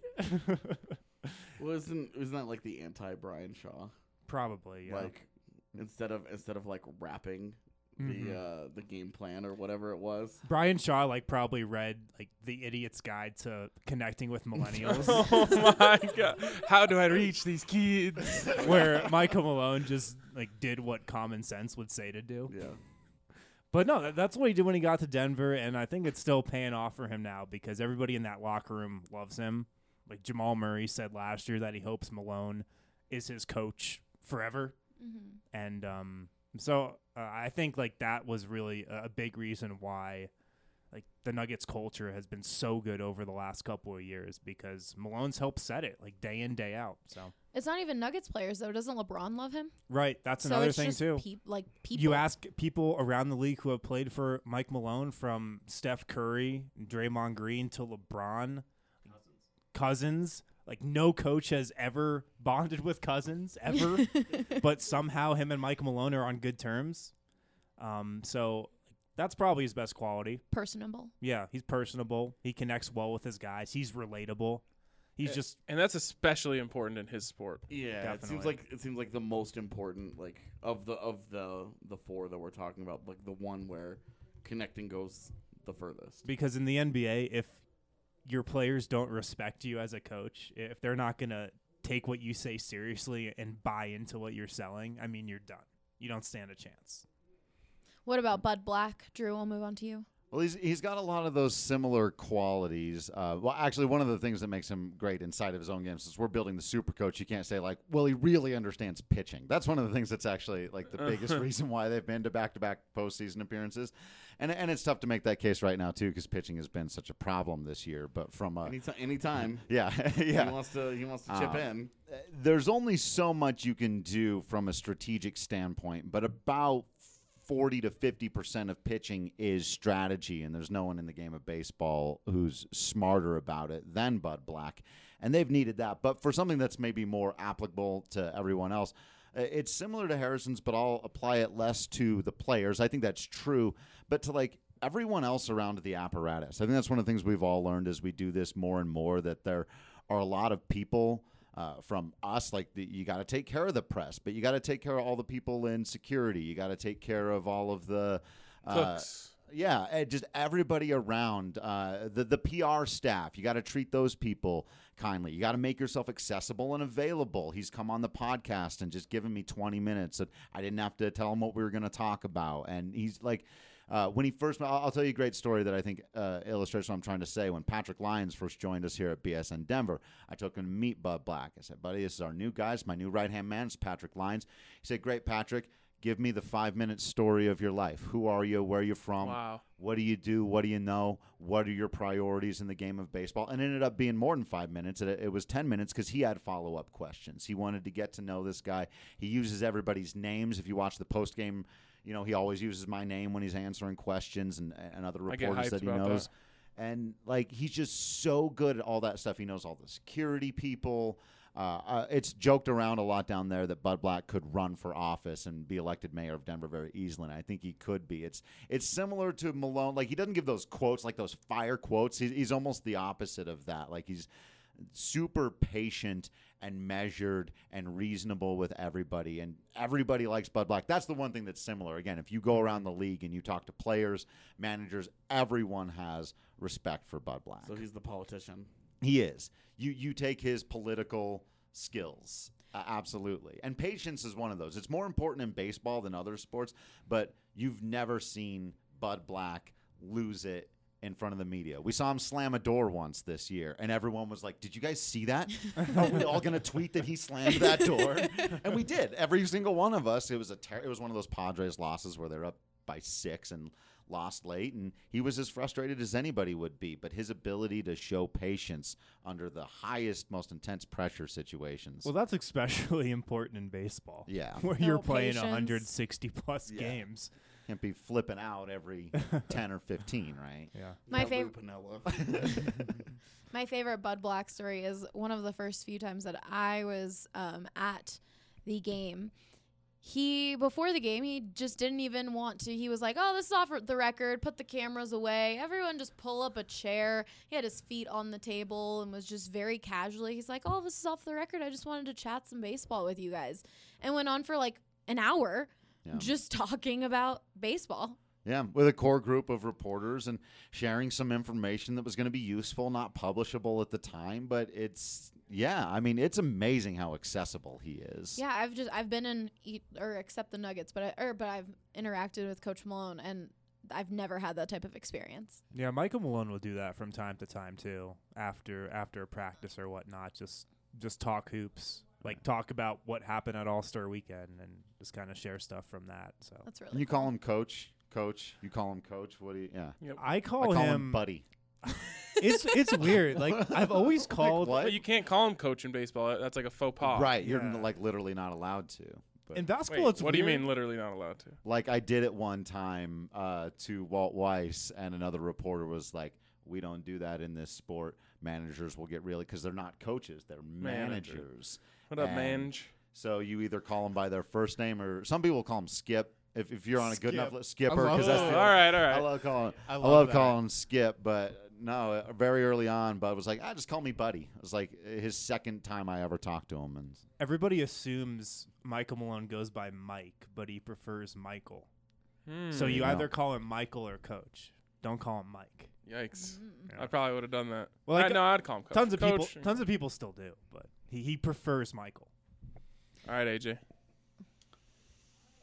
F: Well, isn't isn't that like the anti Brian Shaw?
D: Probably, yeah.
F: Like instead of instead of like rapping
D: Mhm.
F: the uh, the game plan or whatever it was.
D: Brian Shaw like probably read like The Idiot's Guide to Connecting with Millennials.
C: Oh my god! How do I reach these kids?
D: Where Michael Malone just like did what common sense would say to do.
F: Yeah.
D: But no, that, that's what he did when he got to Denver, and I think it's still paying off for him now because everybody in that locker room loves him. Like Jamal Murray said last year that he hopes Malone is his coach forever,
A: Mm-hmm.
D: and um, so uh, I think like that was really a, a big reason why like the Nuggets culture has been so good over the last couple of years because Malone's helped set it like day in day out. So
A: It's not even Nuggets players though. Doesn't LeBron love him?
D: right, that's
A: so
D: another
A: it's
D: thing
A: just
D: too.
A: peop- like people.
D: You ask people around the league who have played for Mike Malone, from Steph Curry, Draymond Green to LeBron, Cousins. Like no coach has ever bonded with Cousins ever, but somehow him and Mike Malone are on good terms. Um, so that's probably his best quality.
A: personable.
D: Yeah, he's personable. He connects well with his guys. He's relatable. He's
C: Yeah.
D: just
C: And that's especially important in his sport.
F: Yeah, it seems
D: Definitely.
F: like it seems like the most important, like of the of the the four that we're talking about, like the one where connecting goes the furthest.
D: because in the N B A, if your players don't respect you as a coach, if they're not going to take what you say seriously and buy into what you're selling, I mean, you're done. You don't stand a chance.
A: What about Bud Black? Drew, we'll move on to you.
E: Well, he's he's got a lot of those similar qualities. Uh, well, actually, one of the things that makes him great inside of his own games is we're building the super coach. You can't say like, well, he really understands pitching. That's one of the things that's actually like the biggest reason why they've been to back-to-back postseason appearances. And and it's tough to make that case right now too because pitching has been such a problem this year. But from a
F: Anytime, anytime.
E: yeah, yeah,
F: He wants to. He wants to chip
E: Um,
F: in.
E: there's only so much you can do from a strategic standpoint, but about forty to fifty percent of pitching is strategy, and there's no one in the game of baseball who's smarter about it than Bud Black, and they've needed that. But for something that's maybe more applicable to everyone else, uh, it's similar to Harrison's, but I'll apply it less to the players. I think that's true, but to like everyone else around the apparatus. I think that's one of the things we've all learned as we do this more and more, that there are a lot of people Uh, from us, like the, you got to take care of the press, but you got to take care of all the people in security. You got to take care of all of the uh,
C: Cooks.
E: Yeah, uh, just everybody around uh, the the P R staff. You got to treat those people kindly. You got to make yourself accessible and available. He's come on the podcast and just given me twenty minutes that I didn't have to tell him what we were going to talk about, and he's like. Uh, when he first, I'll, I'll tell you a great story that I think uh, illustrates what I'm trying to say. When Patrick Lyons first joined us here at B S N Denver, I took him to meet Bud Black. I said, buddy, this is our new guy. It's my new right-hand man. It's Patrick Lyons. He said, great, Patrick. Give me the five-minute story of your life. Who are you? Where are you from?
C: Wow.
E: What do you do? What do you know? What are your priorities in the game of baseball? And it ended up being more than five minutes. It, it was ten minutes because he had follow-up questions. He wanted to get to know this guy. He uses everybody's names. If you watch the post-game, you know, he always uses my name when he's answering questions and, and other
C: I get
E: reporters
C: hyped
E: that he
C: about
E: knows.
C: that.
E: And, like, he's just so good at all that stuff. He knows all the security people. Uh, uh, it's joked around a lot down there that Bud Black could run for office and be elected mayor of Denver very easily, and I think he could be. It's it's similar to Malone. Like, he doesn't give those quotes, like those fire quotes. He's, he's almost the opposite of that. Like, he's super patient and measured and reasonable with everybody, and everybody likes Bud Black. That's the one thing that's similar. Again, if you go around the league and you talk to players, managers, everyone has respect for Bud Black.
F: So he's the politician.
E: He is. You you take his political skills, uh, absolutely. And patience is one of those. It's more important in baseball than other sports, but you've never seen Bud Black lose it in front of the media. We saw him slam a door once this year, and everyone was like, did you guys see that? Are we all going to tweet that he slammed that door? And we did. Every single one of us. It was a ter- it was one of those Padres losses where they're up by six and lost late, and he was as frustrated as anybody would be. But his ability to show patience under the highest, most intense pressure situations.
D: Well, that's especially important in baseball.
E: Yeah.
D: Where
J: No
D: you're playing
J: patience.
D: one hundred sixty plus
E: Yeah.
D: games.
E: Can't be flipping out every ten or fifteen, right?
D: Yeah.
J: My
F: Lou
J: favorite
F: Piniella.
J: My favorite Bud Black story is one of the first few times that I was um, at the game. He, before the game, he just didn't even want to. He was like, oh, this is off the record. Put the cameras away. Everyone just pull up a chair. He had his feet on the table and was just very casually. He's like, oh, this is off the record. I just wanted to chat some baseball with you guys. And went on for like an hour
E: Yeah.
J: just talking about baseball.
E: Yeah, with a core group of reporters and sharing some information that was going to be useful, not publishable at the time, but it's yeah, I mean, it's amazing how accessible he is.
J: Yeah, I've just I've been in eat or accept the Nuggets, but I, or but I've interacted with Coach Malone, and I've never had that type of experience.
D: Yeah, Michael Malone will do that from time to time too. After after a practice or whatnot, just just talk hoops, like talk about what happened at All Star Weekend, and just kind of share stuff from that. So
J: That's really
E: And you
J: cool.
E: call him coach, coach. You call him coach. What do you? Yeah,
C: Yep.
D: I call,
E: I call
D: him,
E: him buddy.
D: It's it's weird. Like I've always called
E: what?
C: But you can't call him coach in baseball. That's like a faux pas.
E: Right, you're
D: Yeah.
E: like literally not allowed to. But
D: in basketball.
C: Wait,
D: it's
C: what do you
D: weird.
C: mean literally not allowed to?
E: like I did it one time uh, to Walt Weiss, and another reporter was like, "We don't do that in this sport. Managers will get really because they're not coaches; they're
C: Manager.
E: managers."
C: What up,
E: And
C: Mange?
E: So you either call them by their first name, or some people call them Skip. If if you're on a good
D: Skip.
E: enough li- Skipper,
D: I love
E: because that's
C: Oh,
E: the
C: all right, all
E: I
C: right.
E: love calling.
D: I
E: I
D: love
E: love,
D: that.
E: calling him Skip, but no, uh, very early on, Bud was like, "Ah, just call me Buddy." It was like his second time I ever talked to him, and
D: Everybody assumes Michael Malone goes by Mike, but he prefers Michael.
C: Hmm.
D: So you
E: Yeah.
D: either call him Michael or Coach. Don't call him Mike.
C: Yikes.
J: Mm-mm.
C: I probably would have done that.
D: Well,
C: I,
D: like,
C: no, I'd call him coach.
D: Tons of people,
C: Coach.
D: tons of people still do, but he, he prefers Michael.
C: All right, A J.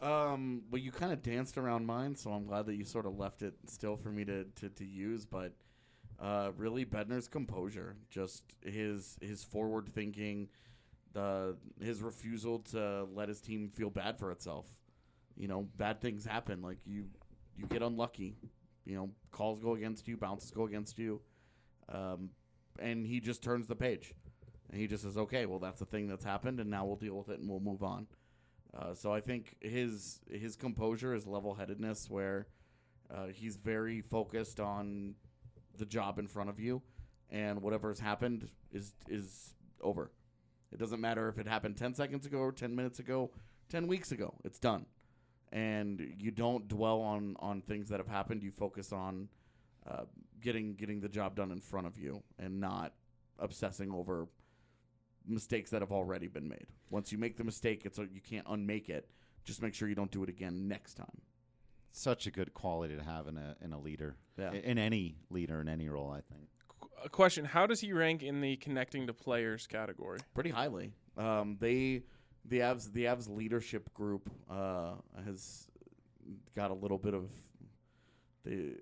F: Um, well, you kind of danced around mine, so I'm glad that you sort of left it still for me to, to, to use. But uh, really, Bednar's composure, just his his forward thinking, the his refusal to let his team feel bad for itself. You know, bad things happen. Like you, you get unlucky. You know, calls go against you, bounces go against you, um, and he just turns the page, and he just says, "Okay, well, that's a thing that's happened, and now we'll deal with it and we'll move on." Uh, so I think his his composure, his level-headedness, where uh, he's very focused on the job in front of you, and whatever has happened is is over. It doesn't matter if it happened ten seconds ago or ten minutes ago, ten weeks ago. It's done. And you don't dwell on, on things that have happened. You focus on uh, getting getting the job done in front of you and not obsessing over mistakes that have already been made. Once you make the mistake, it's a, you can't unmake it. Just make sure you don't do it again next time.
E: Such a good quality to have in a in a leader,
F: Yeah.
E: I- in any leader in any role, I think.
C: A question: how does he rank in the connecting to players category?
F: Pretty highly. Um, they the Avs the Avs leadership group uh, has got a little bit of the.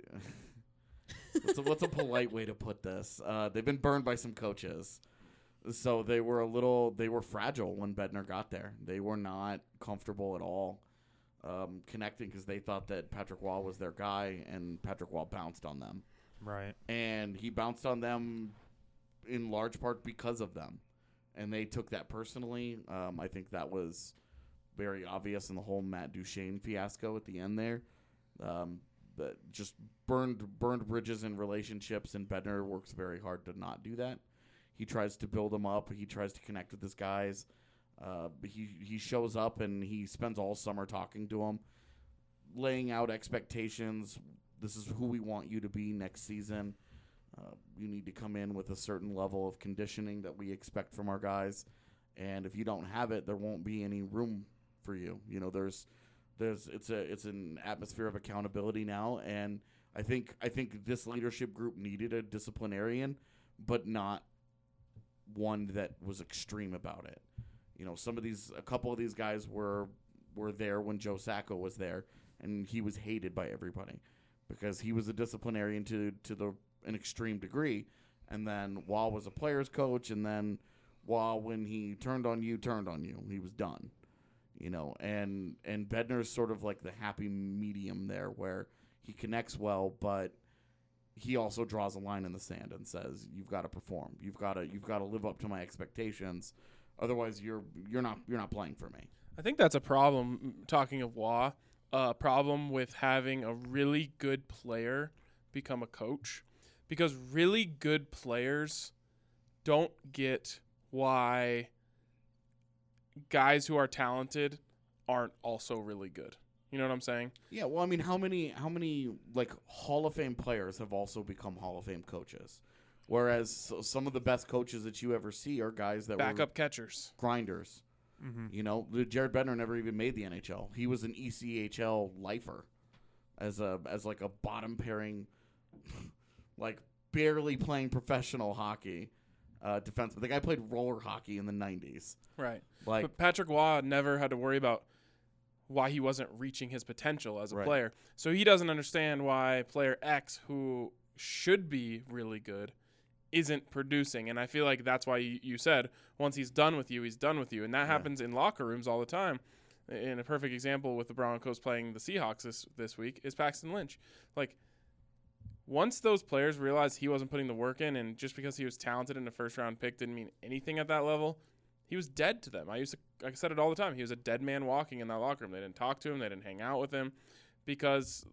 F: what's, a, what's a polite way to put this? Uh, they've been burned by some coaches, so they were a little they were fragile when Bednar got there. They were not comfortable at all um, connecting because they thought that Patrick Waugh was their guy, and Patrick Waugh bounced on them.
D: Right.
F: And he bounced on them in large part because of them. And they took that personally. Um, I think that was very obvious in the whole Matt Duchene fiasco at the end there. Um, but just burned burned bridges in relationships, and Bednar works very hard to not do that. He tries to build them up. He tries to connect with his guys. Uh, he, he shows up, and he spends all summer talking to them, laying out expectations. This is who we want you to be next season. Uh, you need to come in with a certain level of conditioning that we expect from our guys, and if you don't have it, there won't be any room for you. You know, there's, there's, it's a, it's an atmosphere of accountability now, and I think, I think this leadership group needed a disciplinarian, but not one that was extreme about it. You know, some of these, a couple of these guys were, were there when Joe Sacco was there, and he was hated by everybody because he was a disciplinarian to, to the, an extreme degree, and then Waugh was a player's coach, and then Waugh, when he turned on you, turned on you. He was done, you know. And and Bednar's sort of like the happy medium there, where he connects well, but he also draws a line in the sand and says, "You've got to perform. You've got to you've got to live up to my expectations. Otherwise, you're you're not you're not playing for me."
C: I think that's a problem. Talking of Waugh, a uh, problem with having a really good player become a coach. Because really good players don't get why guys who are talented aren't also really good. You know what I'm saying?
F: Yeah, well, I mean, how many how many like Hall of Fame players have also become Hall of Fame coaches? Whereas some of the best coaches that you ever see are guys that
C: backup
F: were
C: catchers,
F: grinders.
D: Mm-hmm.
F: You know, Jared Bednar never even made the N H L. He was an E C H L lifer as a as like a bottom pairing. Like barely playing professional hockey, uh, defenseman. The guy played roller hockey in the nineties.
C: Right.
F: Like,
C: but Patrick Waugh never had to worry about why he wasn't reaching his potential as a
F: right.
C: player. So he doesn't understand why player X, who should be really good, isn't producing. And I feel like that's why you, you said once he's done with you, he's done with you. And that
F: yeah.
C: happens in locker rooms all the time. And a perfect example with the Broncos playing the Seahawks this, this week is Paxton Lynch. Like, once those players realized he wasn't putting the work in, and just because he was talented in a first-round pick didn't mean anything at that level, he was dead to them. I used to, I said it all the time. He was a dead man walking in that locker room. They didn't talk to him. They didn't hang out with him because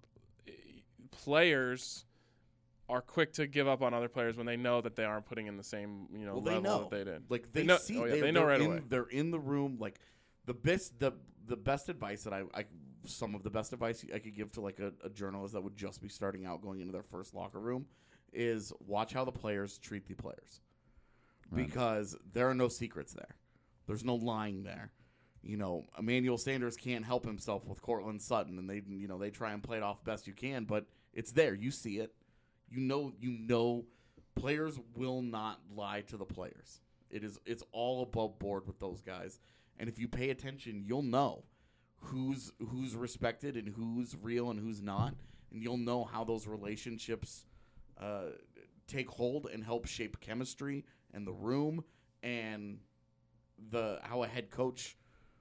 C: players are quick to give up on other players when they know that they aren't putting in the same you know
F: well, they
C: level
F: know.
C: that they did.
F: Like they,
C: they know,
F: see,
C: oh, yeah,
F: they,
C: they know right
F: in,
C: away.
F: They're in the room. Like the best, the the best advice that I, I some of the best advice I could give to like a, a journalist that would just be starting out going into their first locker room is watch how the players treat the players,
E: Right.
F: because there are no secrets there. There's no lying there. You know, Emmanuel Sanders can't help himself with Cortland Sutton, and they, you know, they try and play it off best you can, but it's there. You see it. You know, you know, players will not lie to the players. It is, it's all above board with those guys. And if you pay attention, you'll know who's who's respected and who's real and who's not, and you'll know how those relationships uh, take hold and help shape chemistry and the room and the how a head coach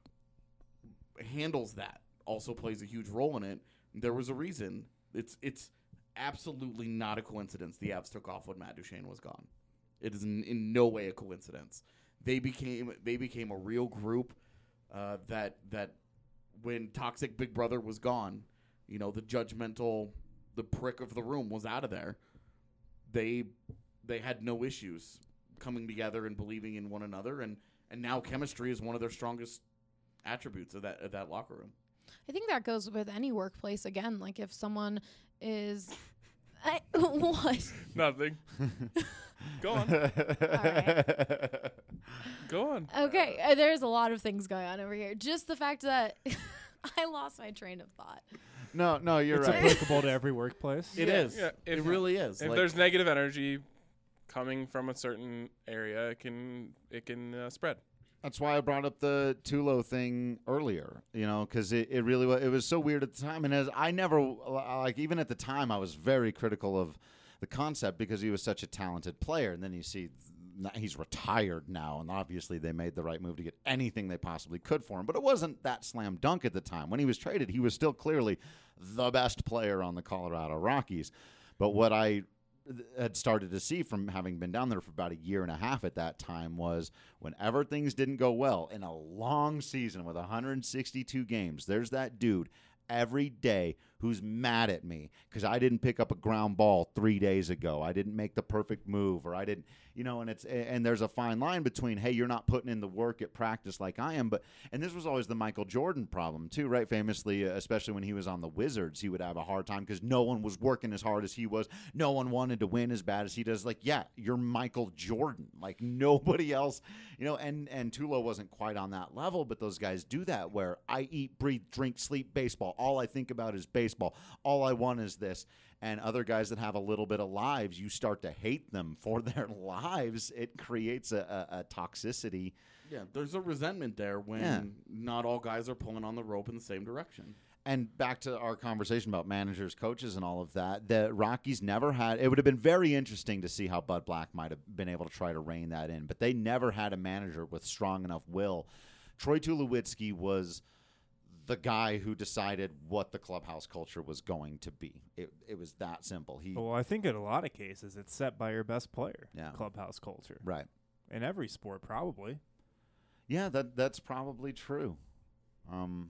F: handles that also plays a huge role in it. There was a reason. It's it's absolutely not a coincidence the Avs took off when Matt Duchene was gone. It is in, in no way a coincidence. They became they became a real group uh, that that when toxic Big Brother was gone, you know, the judgmental, the prick of the room was out of there. They they had no issues coming together and believing in one another, and, and now chemistry is one of their strongest attributes of that of that locker room.
J: I think that goes with any workplace. Again, like if someone is, I, what?
C: Nothing. Go on.
J: All right.
C: Go on.
J: Okay, uh, there's a lot of things going on over here. Just the fact that I lost my train of thought.
E: No, no, you're
D: it's
E: right.
D: applicable to every workplace.
F: It
C: Yeah.
F: is.
C: Yeah, if-
F: it really is.
C: If
F: Like,
C: there's negative energy coming from a certain area, it can it can uh, spread.
E: That's why I brought up the Tulo thing earlier, you know, because it, it really was, it was so weird at the time. And as I never, like, even at the time, I was very critical of the concept because he was such a talented player. And then you see th- he's retired now, and obviously they made the right move to get anything they possibly could for him. But it wasn't that slam dunk at the time. When he was traded, he was still clearly the best player on the Colorado Rockies. But what I had started to see from having been down there for about a year and a half at that time was whenever things didn't go well in a long season with one hundred sixty-two games, there's that dude every day who's mad at me because I didn't pick up a ground ball three days ago. I didn't make the perfect move, or I didn't, you know, and it's, and there's a fine line between, hey, you're not putting in the work at practice like I am. But, and this was always the Michael Jordan problem too, right? Famously, uh, especially when he was on the Wizards, he would have a hard time because no one was working as hard as he was. No one wanted to win as bad as he does. Like, yeah, you're Michael Jordan. Like nobody else, you know, and, and Tulo wasn't quite on that level, but those guys do that where I eat, breathe, drink, sleep baseball. All I think about is baseball. All I want is this. And other guys that have a little bit of lives, you start to hate them for their lives. It creates a, a, a toxicity.
F: Yeah, there's a resentment there when
E: Yeah.
F: not all guys are pulling on the rope in the same direction.
E: And back to our conversation about managers, coaches, and all of that, the Rockies never had – it would have been very interesting to see how Bud Black might have been able to try to rein that in. But they never had a manager with strong enough will. Troy Tulowitzki was – the guy who decided what the clubhouse culture was going to be. It it was that simple. He
D: Well, I think in a lot of cases it's set by your best player.
E: Yeah.
D: Clubhouse culture.
E: right.
D: In every sport, probably.
E: Yeah, that that's probably true. Um,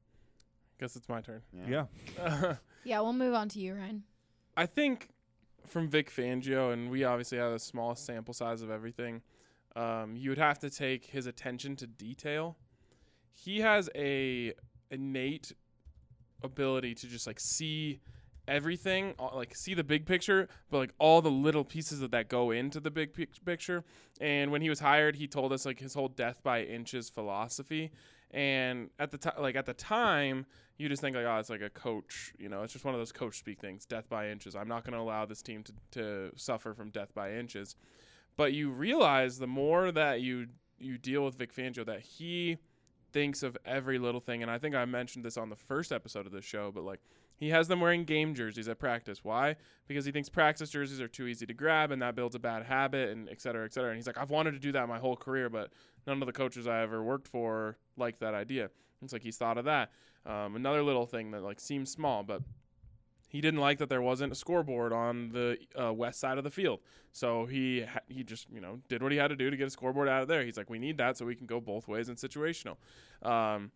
C: Guess it's my turn.
E: yeah.
D: Yeah.
J: Yeah, we'll move on to you, Ryan.
C: I think from Vic Fangio, and we obviously have the smallest sample size of everything, um, you would have to take his attention to detail. He has a innate ability to just like see everything, uh, like see the big picture, but like all the little pieces of that go into the big pic- picture. And when he was hired, he told us like his whole death by inches philosophy. And at the time, like at the time, you just think like, oh, it's like a coach, you know, it's just one of those coach speak things, death by inches. I'm not going to allow this team to, to suffer from death by inches. But you realize the more that you you deal with Vic Fangio, that he thinks of every little thing. And I think I mentioned this on the first episode of the show, but like he has them wearing game jerseys at practice. Why? Because he thinks practice jerseys are too easy to grab and that builds a bad habit and et cetera, et cetera. And he's like, I've wanted to do that my whole career, but none of the coaches I ever worked for liked that idea. It's like he's thought of that. Um, another little thing that like seems small, but he didn't like that there wasn't a scoreboard on the uh, west side of the field. So he ha- he just, you know, did what he had to do to get a scoreboard out of there. He's like, we need that so we can go both ways in situational. Um,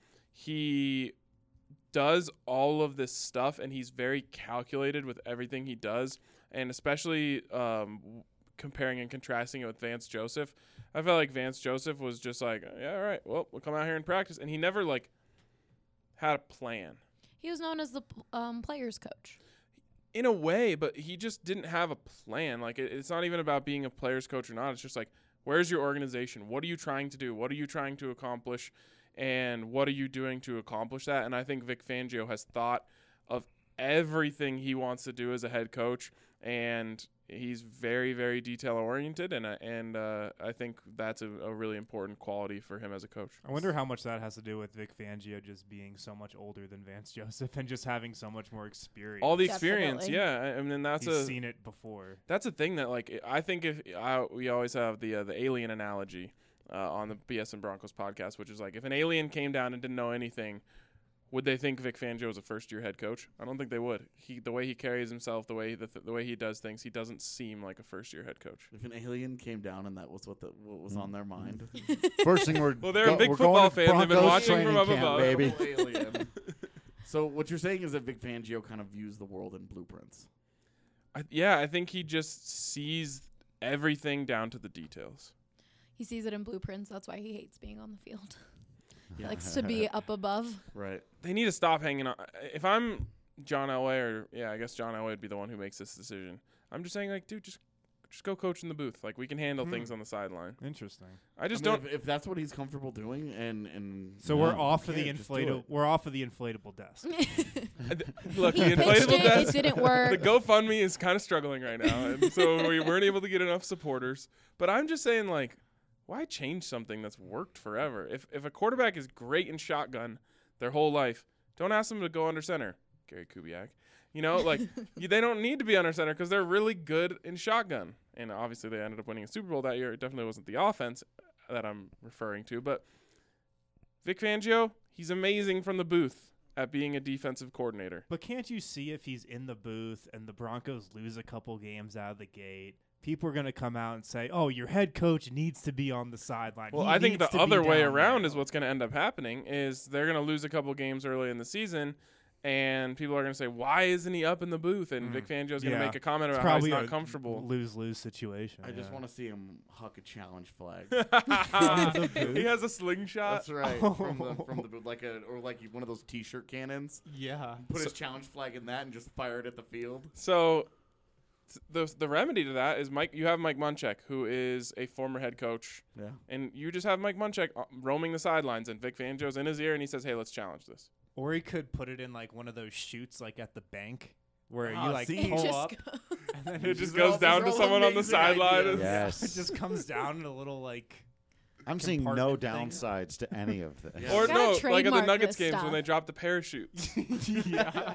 C: he does all of this stuff, and he's very calculated with everything he does, and especially um, comparing and contrasting it with Vance Joseph. I felt like Vance Joseph was just like, yeah, all right, well, we'll come out here and practice. And he never, like, had a plan.
J: He was known as the um, players coach.
C: In a way, but he just didn't have a plan. Like, it, it's not even about being a player's coach or not. It's just like, where's your organization? What are you trying to do? What are you trying to accomplish? And what are you doing to accomplish that? And I think Vic Fangio has thought of everything he wants to do as a head coach, and he's very, very detail oriented, and uh, and uh, I think that's a, a really important quality for him as a coach.
D: I wonder how much that has to do with Vic Fangio just being so much older than Vance Joseph and just having so much more experience.
C: All the experience,
J: Definitely.
C: yeah. I I mean, that's
D: He's
C: a
D: seen it before.
C: that's a thing that like I think if I, we always have the uh, the alien analogy uh, on the B S and Broncos podcast, which is like if an alien came down and didn't know anything, would they think Vic Fangio was a first-year head coach? I don't think they would. He, the way he carries himself, the way he, the, th- the way he does things, he doesn't seem like a first-year head coach.
F: If an alien came down and that was what the what was on their mind,
E: First thing we're
C: Well, they're
E: go-
C: a big
E: we're
C: football
E: going to
C: fan. They've been
E: Broncos
C: watching from
E: training
C: up
E: camp,
C: above.
E: baby.
F: alien. So what you're saying is that Vic Fangio kind of views the world in blueprints.
C: I, yeah, I think he just sees everything down to the details.
J: He sees it in blueprints. That's why he hates being on the field. He likes to be up above.
F: Right.
C: They need to stop hanging on. If I'm John Elway, or yeah, I guess John Elway would be the one who makes this decision. I'm just saying, like, dude, just just go coach in the booth. Like, we can handle
D: Hmm.
C: things on the sideline.
D: Interesting.
C: I just
F: I mean,
C: don't.
F: If, if that's what he's comfortable doing, and and
D: So
F: no,
D: we're off
F: you
D: of the
F: can't just do
D: inflatable.
F: it.
D: We're off of the inflatable desk.
C: Look, the
J: He pitched
C: inflatable
J: it,
C: desk.
J: it didn't work.
C: The GoFundMe is kind of struggling right now, and so we weren't able to get enough supporters. But I'm just saying, like, why change something that's worked forever? If if a quarterback is great in shotgun their whole life, don't ask them to go under center. Gary Kubiak. You know, like, you, they don't need to be under center because they're really good in shotgun. And obviously they ended up winning a Super Bowl that year. It definitely wasn't the offense that I'm referring to. But Vic Fangio, he's amazing from the booth at being a defensive coordinator.
D: But can't you see if he's in the booth and the Broncos lose a couple games out of the gate, people are going to come out and say, oh, your head coach needs to be on the sideline.
C: Well,
D: He
C: I think
D: needs
C: the
D: to be
C: other way
D: down
C: around
D: there."
C: is what's going to end up happening is they're going to lose a couple games early in the season, and people are going to say, why isn't he up in the booth? And
D: Mm.
C: Vic Fangio's going to
D: Yeah.
C: make a comment
D: It's
C: about how he's
D: probably
C: not
D: a
C: comfortable.
D: lose-lose situation.
F: I just
D: yeah.
F: want to see him huck a challenge flag.
D: the booth?
C: He has a slingshot.
F: That's right. From the from the like a or like one of those T-shirt cannons.
D: Yeah.
F: Put his challenge flag in that and just fire it at the field.
C: So th- the the remedy to that is Mike. You have Mike Munchak, who is a former head coach,
F: Yeah.
C: and you just have Mike Munchak uh, roaming the sidelines, and Vic Fangio's in his ear, and he says, "Hey, let's challenge this."
D: Or he could put it in like one of those chutes like at the bank where
F: Ah,
D: you like
F: see?
D: pull
J: Just
D: up
J: go-
D: and then
C: It
D: it
C: just
D: just,
F: These are all-
C: goes down
F: these
C: to
F: are all
C: someone on the
F: amazing
C: sideline.
F: ideas.
C: and-
E: Yes.
D: it just comes down in a little like
E: I'm seeing no
D: compartment thing.
E: downsides to any of this.
F: Yeah.
C: Or
J: Gotta
C: no, like at the
J: trademark
C: Nuggets
J: this
C: games
J: stuff.
C: when they drop the parachute.
D: yeah.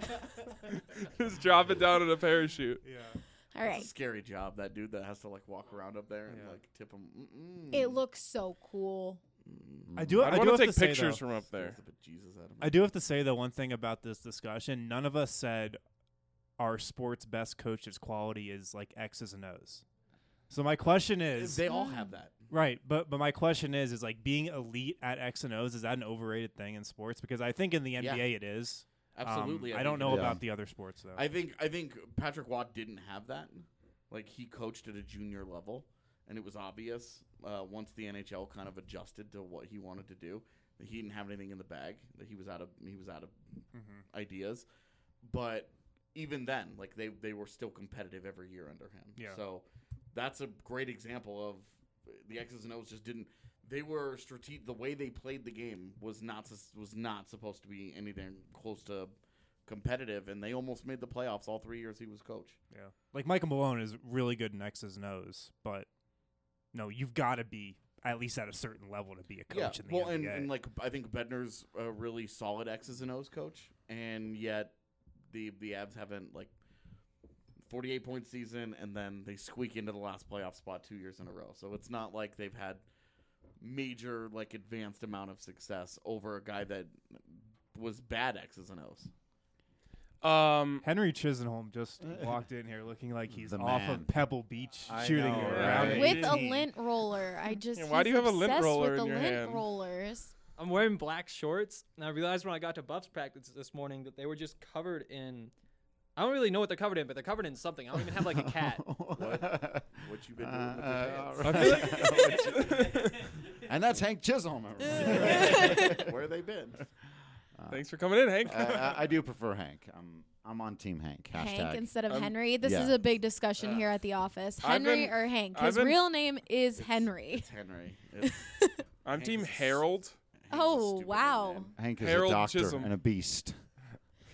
C: Just drop it down in a parachute.
D: yeah.
J: All right.
F: It's a scary job, that dude that has to like walk around up there and
D: Yeah.
F: like tip him. Mm-mm.
J: It looks so cool.
D: I do
C: I
D: I do
C: want to
D: have
C: take
D: to say,
C: pictures
D: though,
C: from up there.
F: Scares the bejesus out of me.
D: I do have to say though one thing about this discussion, none of us said our sport's best coach's quality is like X's and O's. So my question is
F: They all have that.
D: right, but but my question is is like being elite at X and O's, is that an overrated thing in sports? Because I think in the N B A
F: Yeah.
D: it is. Um,
F: Absolutely.
D: I don't
F: think
D: know
F: it is.
D: about the other sports though.
F: I think I think Patrick Watt didn't have that. Like he coached at a junior level, and it was obvious uh, once the N H L kind of adjusted to what he wanted to do that he didn't have anything in the bag. That he was out of he was out of
D: Mhm.
F: ideas. But even then, like they they were still competitive every year under him.
D: Yeah.
F: So that's a great example of the X's and O's just didn't. They were strategic. The way they played the game was not sus- was not supposed to be anything close to competitive, and they almost made the playoffs all three years he was coach.
D: Yeah. Like Michael Malone is really good in X's and O's, but no, you've got to be at least at a certain level to be a coach in the
F: well,
D: N
F: and,
D: B A.
F: and like I think Bednar's a really solid X's and O's coach, and yet the the Avs haven't like forty-eight point season, and then they squeak into the last playoff spot two years in a row. So it's not like they've had major like advanced amount of success over a guy that was bad X's and O's.
C: Um,
D: Henry Chisenholm just walked in here looking like he's
E: The
D: off
E: man.
D: of Pebble Beach
E: I
D: shooting
E: know,
D: around
E: right?
D: an
J: With a
D: eighteen.
J: lint roller. I just
C: Yeah, why do
J: he's
C: you have a lint
J: obsessed
C: roller
J: with
C: in
J: the
C: your
J: lint
C: hand?
J: rollers.
K: I'm wearing black shorts, and I realized when I got to Buffs practice this morning that they were just covered in. I don't really know what they're covered in, but they're covered in something. I don't even have like a cat.
F: What? What you been doing with
E: Uh,
F: your
E: uh,
F: pants?
E: And that's Hank Chisholm. everybody.
F: Where they been?
C: Thanks for coming in, Hank.
E: I, I, I do prefer Hank. I'm I'm on Team Hank. Hashtag.
J: Hank instead of
C: Um,
J: Henry. This
E: yeah.
J: is a big discussion
C: Uh,
J: here at the office.
C: I've
J: Henry
C: been-
J: or Hank?
C: I've
J: His
C: been-
J: real name is Henry.
F: It's Henry. It's,
C: I'm
F: Hank
C: Team
F: is-
C: Harold.
F: Hank's a
J: Oh,
F: stupid
J: wow.
F: name.
E: Hank is
C: Harold
E: a doctor
C: Chisholm.
E: and a beast.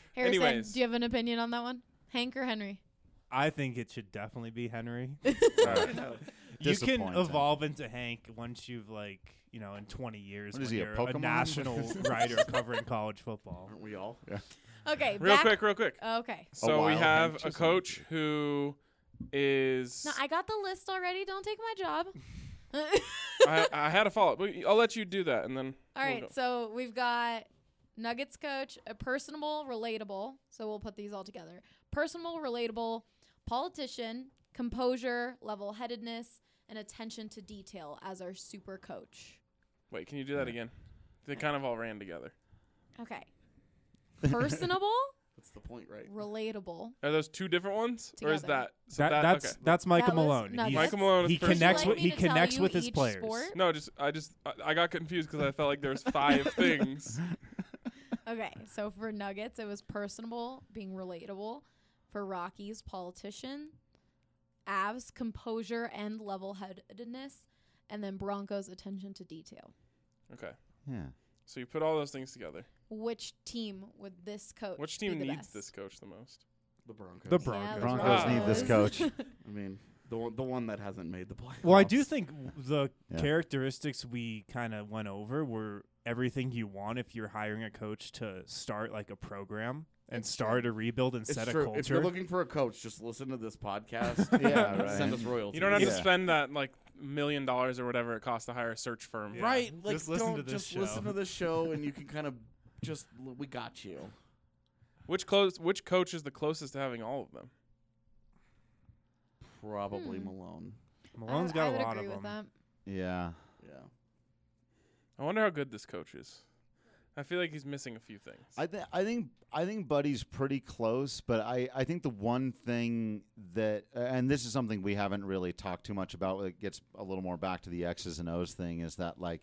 J: Harrison,
C: Anyways.
J: do you have an opinion on that one? Hank or Henry?
D: I think it should definitely be Henry.
C: Uh,
D: You can
E: Disappointing.
D: evolve into Hank once you've like, you know, in twenty years
E: What is
D: when
E: he, a
D: you're a,
E: Pokemon?
D: national writer covering college football.
F: Aren't we all?
E: Yeah.
J: Okay.
C: real
J: back-
C: quick, real quick.
J: Okay.
C: So we
E: wild
C: have
E: Hank
C: a
E: just-
C: coach who is.
J: No, I got the list already. Don't take my job.
C: I, I had a follow up. I'll let you do that, and then.
J: All
C: we'll
J: right,
C: go.
J: so we've got Nuggets coach, a personable, relatable. So we'll put these all together. Personable, relatable, politician, composure, level-headedness, and attention to detail as our super coach.
C: Wait, can you do that again? They kind of all ran together.
J: Okay. Personable,
F: That's the point, right?
J: relatable.
C: Are those two different ones, or is
J: Together.
C: that? So
D: That,
C: that
D: that's
C: okay.
D: that's Michael
J: That was
D: Malone.
J: Nuggets.
D: He's-
C: Michael Malone is
D: he
C: personable.
D: connects
J: Would
D: with
J: you
D: he
J: like me to tell
D: connects
J: you
D: with his
J: each
D: players.
J: sport?
C: No, just I just I, I got confused because I felt like there was five things.
J: Okay, so for Nuggets, it was personable, being relatable. For Rockies, politician. Avs, composure and level-headedness. And then Broncos, attention to detail.
C: Okay,
E: Yeah.
C: so you put all those things together.
J: Which team would this coach
C: Which
J: be
C: team
J: the
C: needs
J: best?
C: this coach the most?
F: The Broncos.
D: The
J: Yeah,
D: Broncos.
J: the
E: Broncos
C: need
E: this coach.
F: I mean, the one, the one that hasn't made the playoffs.
D: Well, I do think w- the
E: Yeah.
D: characteristics we kind of went over were everything you want if you're hiring a coach to start like a program and
J: It's
D: start a rebuild and
F: It's
D: set
F: true.
D: a culture.
F: If you're looking for a coach, just listen to this podcast.
E: Yeah,
F: and
E: right.
F: Send us royalties.
C: You don't have to
E: Yeah.
C: spend that like million dollars or whatever it costs to hire a search firm.
D: Yeah.
F: Right. Like,
D: Just listen
F: don't
D: to this
F: just
D: show.
F: listen to this show, and you can kind of just we got you.
C: Which close? Which coach is the closest to having all of them?
F: Probably
J: Hmm.
F: Malone.
D: Malone's
J: I,
D: got
J: I
D: a
J: would
D: lot
J: agree
D: of
J: with
D: them.
J: that.
E: Yeah.
F: Yeah.
C: I wonder how good this coach is. I feel like he's missing a few things.
E: I think I think I think Buddy's pretty close, but I, I think the one thing that uh, and this is something we haven't really talked too much about. It gets a little more back to the X's and O's thing. Is that like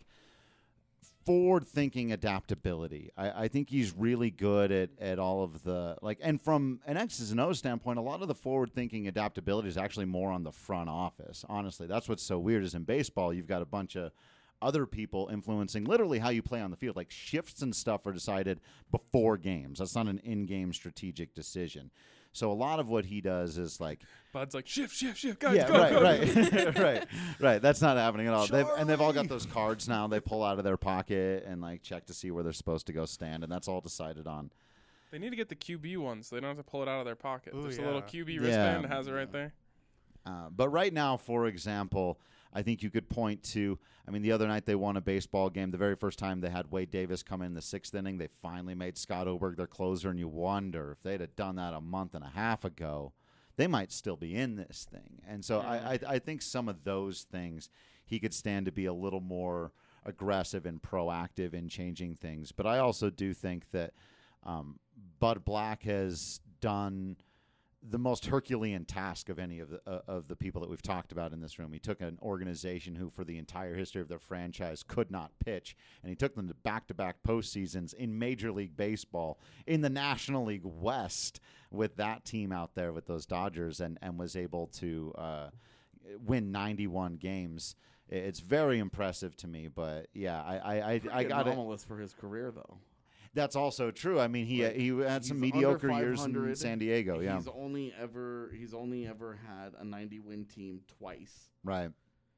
E: forward thinking adaptability? I, I think he's really good at, at all of the like and from an X's and O's standpoint, a lot of the forward thinking adaptability is actually more on the front office. Honestly, that's what's so weird is in baseball you've got a bunch of other people influencing literally how you play on the field. Like shifts and stuff are decided before games. That's not an in-game strategic decision. So a lot of what he does is like,
C: Bud's like shift, shift, shift, guys,
E: yeah,
C: go,
E: right,
C: go.
E: right, right, right. That's not happening at all. They've, and they've all got those cards now. They pull out of their pocket and like check to see where they're supposed to go stand, and that's all decided on.
C: They need to get the Q B one so they don't have to pull it out of their pocket.
D: Ooh,
C: There's
D: yeah.
C: a little Q B
E: Yeah.
C: wristband that has it right there.
E: Uh, but right now, for example, I think you could point to, I mean, the other night they won a baseball game. The very first time they had Wade Davis come in the sixth inning, they finally made Scott Oberg their closer, and you wonder if they'd have done that a month and a half ago, they might still be in this thing. And so I, I, I think some of those things he could stand to be a little more aggressive and proactive in changing things. But I also do think that um, Bud Black has done the most Herculean task of any of the uh, of the people that we've talked about in this room. He took an organization who, for the entire history of their franchise, could not pitch, and he took them to back-to-back postseasons in Major League Baseball, in the National League West, with that team out there with those Dodgers, and, and was able to uh, win ninety-one games. It's very impressive to me, but yeah, I I I, I got it.
F: anomalous for his career though.
E: That's also true. I mean, he
F: Like,
E: he had some
F: he's
E: mediocre
F: under
E: years in
F: five hundred.
E: San Diego. Yeah,
F: He's only ever he's only ever had a ninety win team twice,
E: right,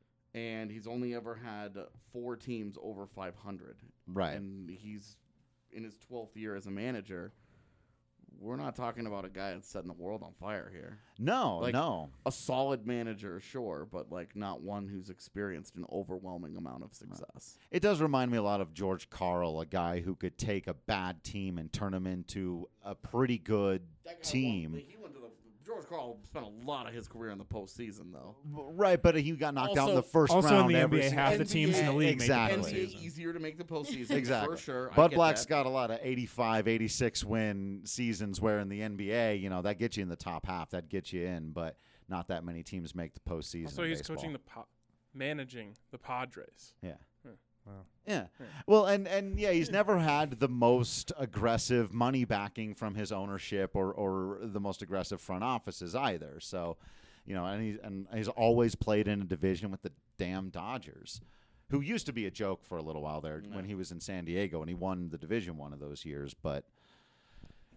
F: and he's only ever had four teams over five hundred.
E: right.
F: And he's in his twelfth year as a manager. We're not talking about a guy that's setting the world on fire here.
E: No,
F: Like,
E: no.
F: A solid manager, sure, but like not one who's experienced an overwhelming amount of success.
E: It does remind me a lot of George Karl, a guy who could take a bad team and turn them into a pretty good
F: That guy
E: team.
F: won- he went to the George Karl spent a lot of his career in the postseason, though.
E: Right, but he got knocked out in
F: Also-
E: the first
D: Also
E: round.
D: in the
E: every
D: N B A,
E: single-
D: half the teams in the league
E: Exactly.
D: make the
F: N B A
D: postseason.
F: easier to make the postseason,
E: Exactly.
F: for sure. I
E: Bud
F: get
E: Black's
F: that.
E: got a lot of eighty-five, eighty-six win seasons where in the N B A, you know, that gets you in the top half. That gets you in, but not that many teams make the postseason.
C: So
E: in
C: he's
E: baseball.
C: coaching the po- managing the Padres.
E: Yeah.
D: Wow.
E: Yeah. Well, and, and yeah, he's never had the most aggressive money backing from his ownership or, or the most aggressive front offices either. So, you know, and he's, and he's always played in a division with the damn Dodgers, who used to be a joke for a little while there
F: Yeah.
E: when he was in San Diego, and he won the division one of those years. But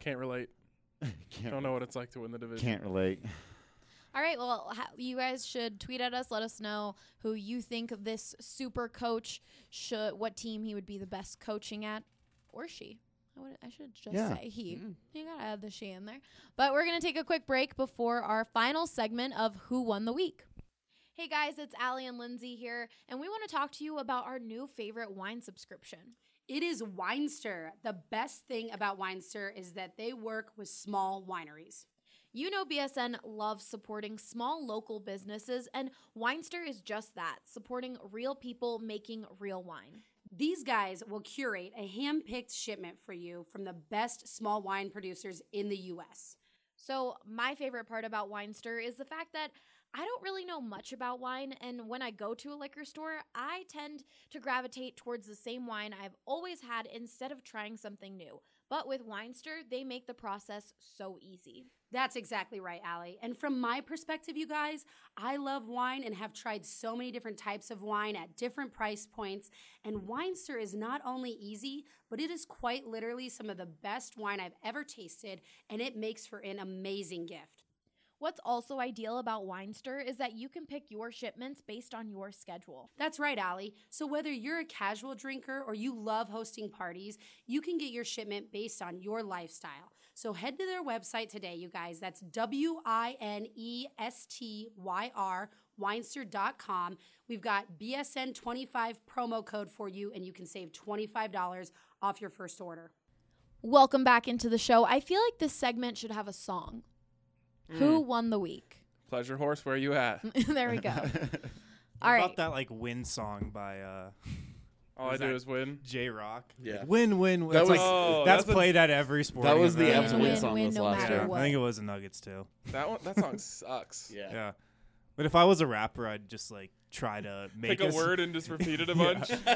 C: Can't relate.
E: Can't,
C: Don't know what it's like to win the division.
E: Can't relate.
J: All right, well, ha- you guys should tweet at us. Let us know who you think this super coach should, what team he would be the best coaching at, or she. I, would, I should just
E: Yeah.
J: say he.
F: Mm.
J: You gotta add the she in there. But we're gonna take a quick break before our final segment of Who Won the Week. Hey guys, it's Allie and Lindsay here, and we want to talk to you about our new favorite wine subscription.
L: It is Winester. The best thing about Winester is that they work with small wineries.
A: You know B S N loves supporting small local businesses, and Winester is just that, supporting real people making real wine.
L: These guys will curate a hand-picked shipment for you from the best small wine producers in the U S.
A: So my favorite part about Winester is the fact that I don't really know much about wine, and when I go to a liquor store, I tend to gravitate towards the same wine I've always had instead of trying something new. But with Winester, they make the process so easy.
L: That's exactly right, Allie. And from my perspective, you guys, I love wine and have tried so many different types of wine at different price points. And Winester is not only easy, but it is quite literally some of the best wine I've ever tasted, and it makes for an amazing gift.
A: What's also ideal about Winester is that you can pick your shipments based on your schedule.
L: That's right, Allie. So whether you're a casual drinker or you love hosting parties, you can get your shipment based on your lifestyle. So head to their website today, you guys. That's W I N E S T Y R, winester dot com. We've got B S N twenty-five promo code for you, and you can save twenty-five dollars off your first order.
A: Welcome back into the show. I feel like this segment should have a song. Mm. Who won the week?
C: Pleasure Horse, where you at?
A: There we go. All
D: How
A: right.
D: about that like win song by uh
C: All I do is win.
D: J Rock.
F: Yeah.
D: Like, win, win, win.
F: That
D: That's,
F: was-
D: like,
C: Oh,
D: that's,
C: that's a-
D: played at every sporting
F: That was the
D: event.
F: absolute
J: Win,
F: song
J: win,
F: this
J: no
F: last
J: matter
F: year.
J: what.
D: I think it was the Nuggets too.
C: That one, that song sucks.
F: Yeah.
D: Yeah. But if I was a rapper, I'd just like try to make
C: Pick a
D: s-
C: word and just repeat it a
D: Yeah.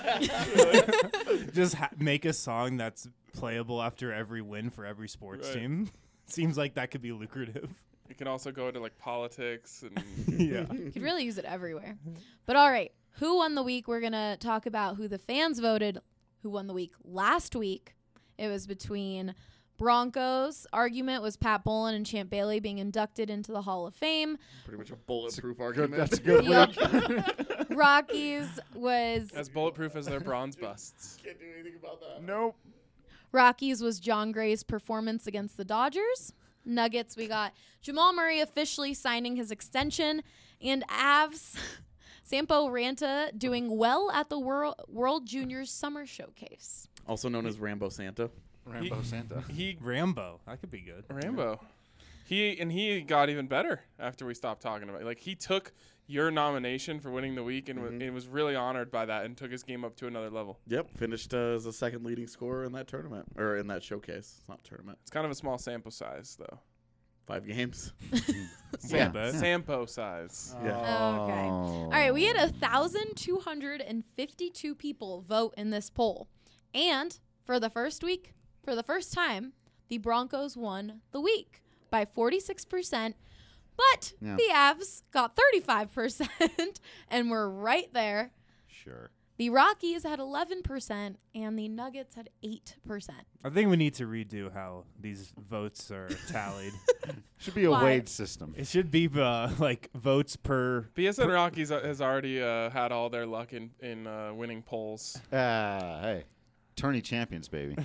C: bunch.
D: just ha- make a song that's playable after every win for every sports
C: Right.
D: team. Seems like that could be lucrative.
C: You can also go into like politics and
D: Yeah.
J: You could really use it everywhere. But all right, who won the week? We're going to talk about who the fans voted who won the week last week. It was between Broncos. Argument was Pat Bowlen and Champ Bailey being inducted into the Hall of Fame.
F: Pretty much a bulletproof
E: Good,
F: argument.
E: that's a good
J: Yep.
E: week.
J: Rockies was
C: as bulletproof as their bronze busts.
F: Can't do anything about that.
E: Nope.
J: Rockies was John Gray's performance against the Dodgers. Nuggets, we got Jamal Murray officially signing his extension, and Avs, Sampo Ranta doing well at the World World Juniors Summer Showcase.
F: Also known as Rambo Santa.
E: Rambo Santa.
C: He
D: Rambo. That could be good.
C: Rambo. He and he got even better after we stopped talking about it. Like he took your nomination for winning the week and,
F: Mhm.
C: w- and was really honored by that and took his game up to another level.
F: Yep, finished uh, as the second leading scorer in that tournament or in that showcase. It's not tournament.
C: It's kind of a small sample size though.
F: Five games.
E: Yeah.
D: bet.
C: Sampo size.
F: Yeah.
J: Okay. All right, we had one thousand two hundred fifty-two people vote in this poll. And for the first week, for the first time, the Broncos won the week by forty-six percent. But
E: Yeah.
J: the Avs got thirty-five percent and were right there.
E: Sure.
J: The Rockies had eleven percent and the Nuggets had eight percent.
D: I think we need to redo how these votes are tallied.
E: Should be a
J: Why?
E: Wade system.
D: It should be uh, like votes per.
C: B S N Rockies uh, has already uh, had all their luck in in uh, winning polls.
E: Uh, hey, tourney champions, baby.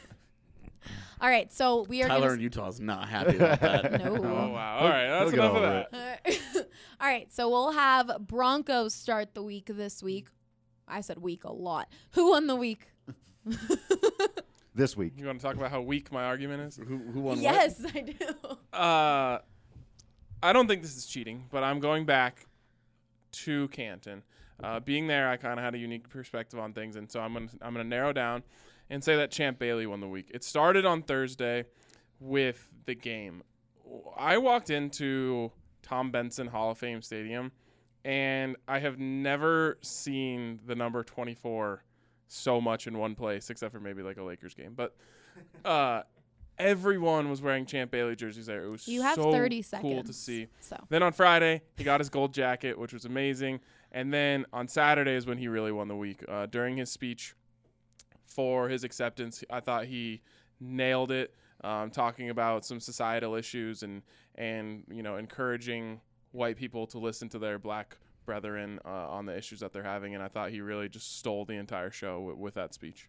J: All right, so we are
F: Tyler
J: gonna
F: in Utah is not happy about that.
J: No.
C: Oh wow! All right, that's
E: he'll get
C: enough of
E: over
C: that.
E: it.
J: All right, so we'll have Broncos start the week this week. I said week a lot. Who won the week?
E: This week.
C: You want to talk about how weak my argument is?
F: Who, who won
J: Yes, I do.
C: Uh, I don't think this is cheating, but I'm going back to Canton. Uh, being there, I kind of had a unique perspective on things, and so I'm gonna I'm gonna narrow down and say that Champ Bailey won the week. It started on Thursday with the game. I walked into Tom Benson Hall of Fame Stadium, and I have never seen the number twenty-four so much in one place, except for maybe like a Lakers game. But uh, everyone was wearing Champ Bailey jerseys there. It was
J: You have
C: so
J: thirty seconds.
C: cool to see.
J: So
C: Then on Friday, he got his gold jacket, which was amazing. And then on Saturday is when he really won the week. Uh, during his speech for his acceptance, I thought he nailed it. um, talking about some societal issues and and you know encouraging white people to listen to their black brethren uh, on the issues that they're having. And I thought he really just stole the entire show w- with that speech.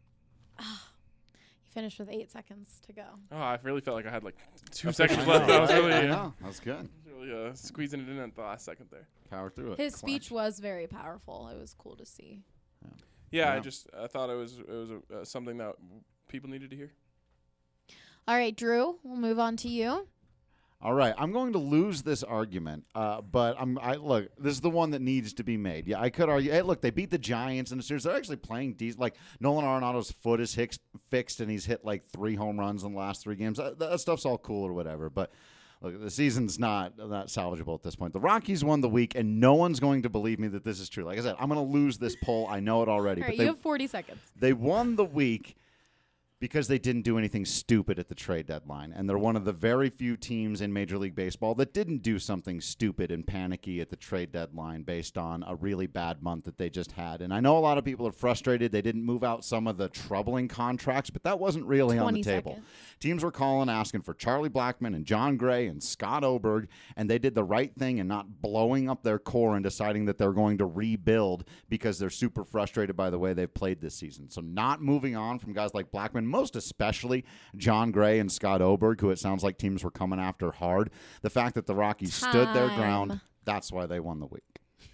J: He finished with eight seconds to go.
C: Oh, I really felt like I had like two
E: That's
C: seconds
E: I know,
C: left. That was
E: right?
C: really,
E: I
C: uh,
E: know. That was good.
C: really uh, squeezing it in at the last second there.
E: Power through it.
J: His
E: Clutch.
J: speech was very powerful. It was cool to see.
C: Yeah, I
E: Yeah.
C: just I thought it was it was uh, something that people needed to hear.
J: All right, Drew, we'll move on to you.
E: All right, I'm going to lose this argument, uh, but I'm. I look. This is the one that needs to be made. Yeah, I could argue. Hey, look, they beat the Giants in the series. They're actually playing decent. Like Nolan Arenado's foot is hicks, fixed, and he's hit like three home runs in the last three games. That, that stuff's all cool or whatever. But look, the season's not not salvageable at this point. The Rockies won the week, and no one's going to believe me that this is true. Like I said, I'm going to lose this poll. I know it already.
J: All
E: but
J: right,
E: they,
J: you have forty seconds.
E: They won the week because they didn't do anything stupid at the trade deadline. And they're one of the very few teams in Major League Baseball that didn't do something stupid and panicky at the trade deadline based on a really bad month that they just had. And I know a lot of people are frustrated they didn't move out some of the troubling contracts, but that wasn't really on the table.
J: seconds.
E: Teams were calling, asking for Charlie Blackmon and John Gray and Scott Oberg, and they did the right thing in not blowing up their core and deciding that they're going to rebuild because they're super frustrated by the way they've played this season. So not moving on from guys like Blackmon, most especially John Gray and Scott Oberg, who it sounds like teams were coming after hard. The fact that the Rockies stood their ground,
J: Time.
E: that's why they won the week.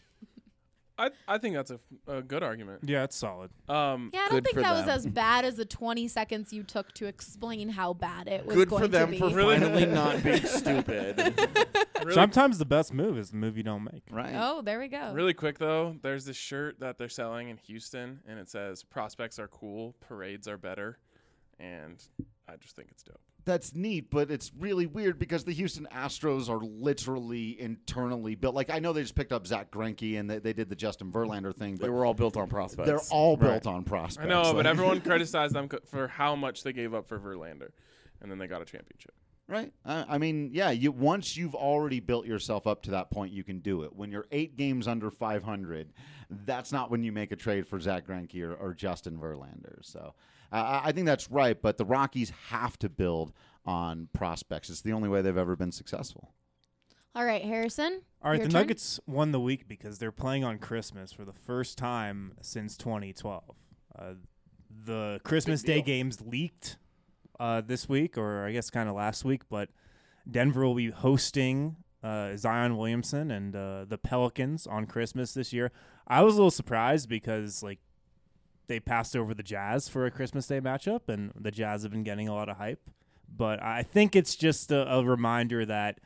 C: I I think that's a, a good argument.
D: Yeah, it's solid.
C: Um,
J: Yeah, I don't
F: Good
J: think
F: for
J: that was
F: them.
J: as bad as the twenty seconds you took to explain how bad it was
F: Good
J: going
F: for them
J: to be.
F: for
C: Really?
F: finally not being stupid.
C: really,
D: Sometimes the best move is the move you don't make.
E: Right.
J: Oh, there we go.
C: really quick though, there's this shirt that they're selling in Houston, and it says "Prospects are cool, parades are better," and I just think it's dope.
E: That's neat, but it's really weird because the Houston Astros are literally internally built. Like, I know they just picked up Zach Greinke and they, they did the Justin Verlander thing,
F: They
E: but
F: were all built on prospects.
E: they're all
D: Right.
E: built on prospects.
C: I know, but
E: Like-
C: everyone criticized them co- for how much they gave up for Verlander, and then they got a championship.
E: Right. I, I mean, yeah. You once you've already built yourself up to that point, you can do it. When you're eight games under five hundred, that's not when you make a trade for Zach Greinke or, or Justin Verlander. So uh, I I think that's right. But the Rockies have to build on prospects. It's the only way they've ever been successful.
J: All right, Harrison.
D: All right,
J: your
D: the
J: turn.
D: Nuggets won the week because they're playing on Christmas for the first time since twenty twelve. Uh, the Christmas Day
E: deal.
D: games leaked uh, this week, or I guess kind of last week, but Denver will be hosting uh, Zion Williamson and uh, the Pelicans on Christmas this year. I was a little surprised because, like, they passed over the Jazz for a Christmas Day matchup, and the Jazz have been getting a lot of hype. But I think it's just a, a reminder that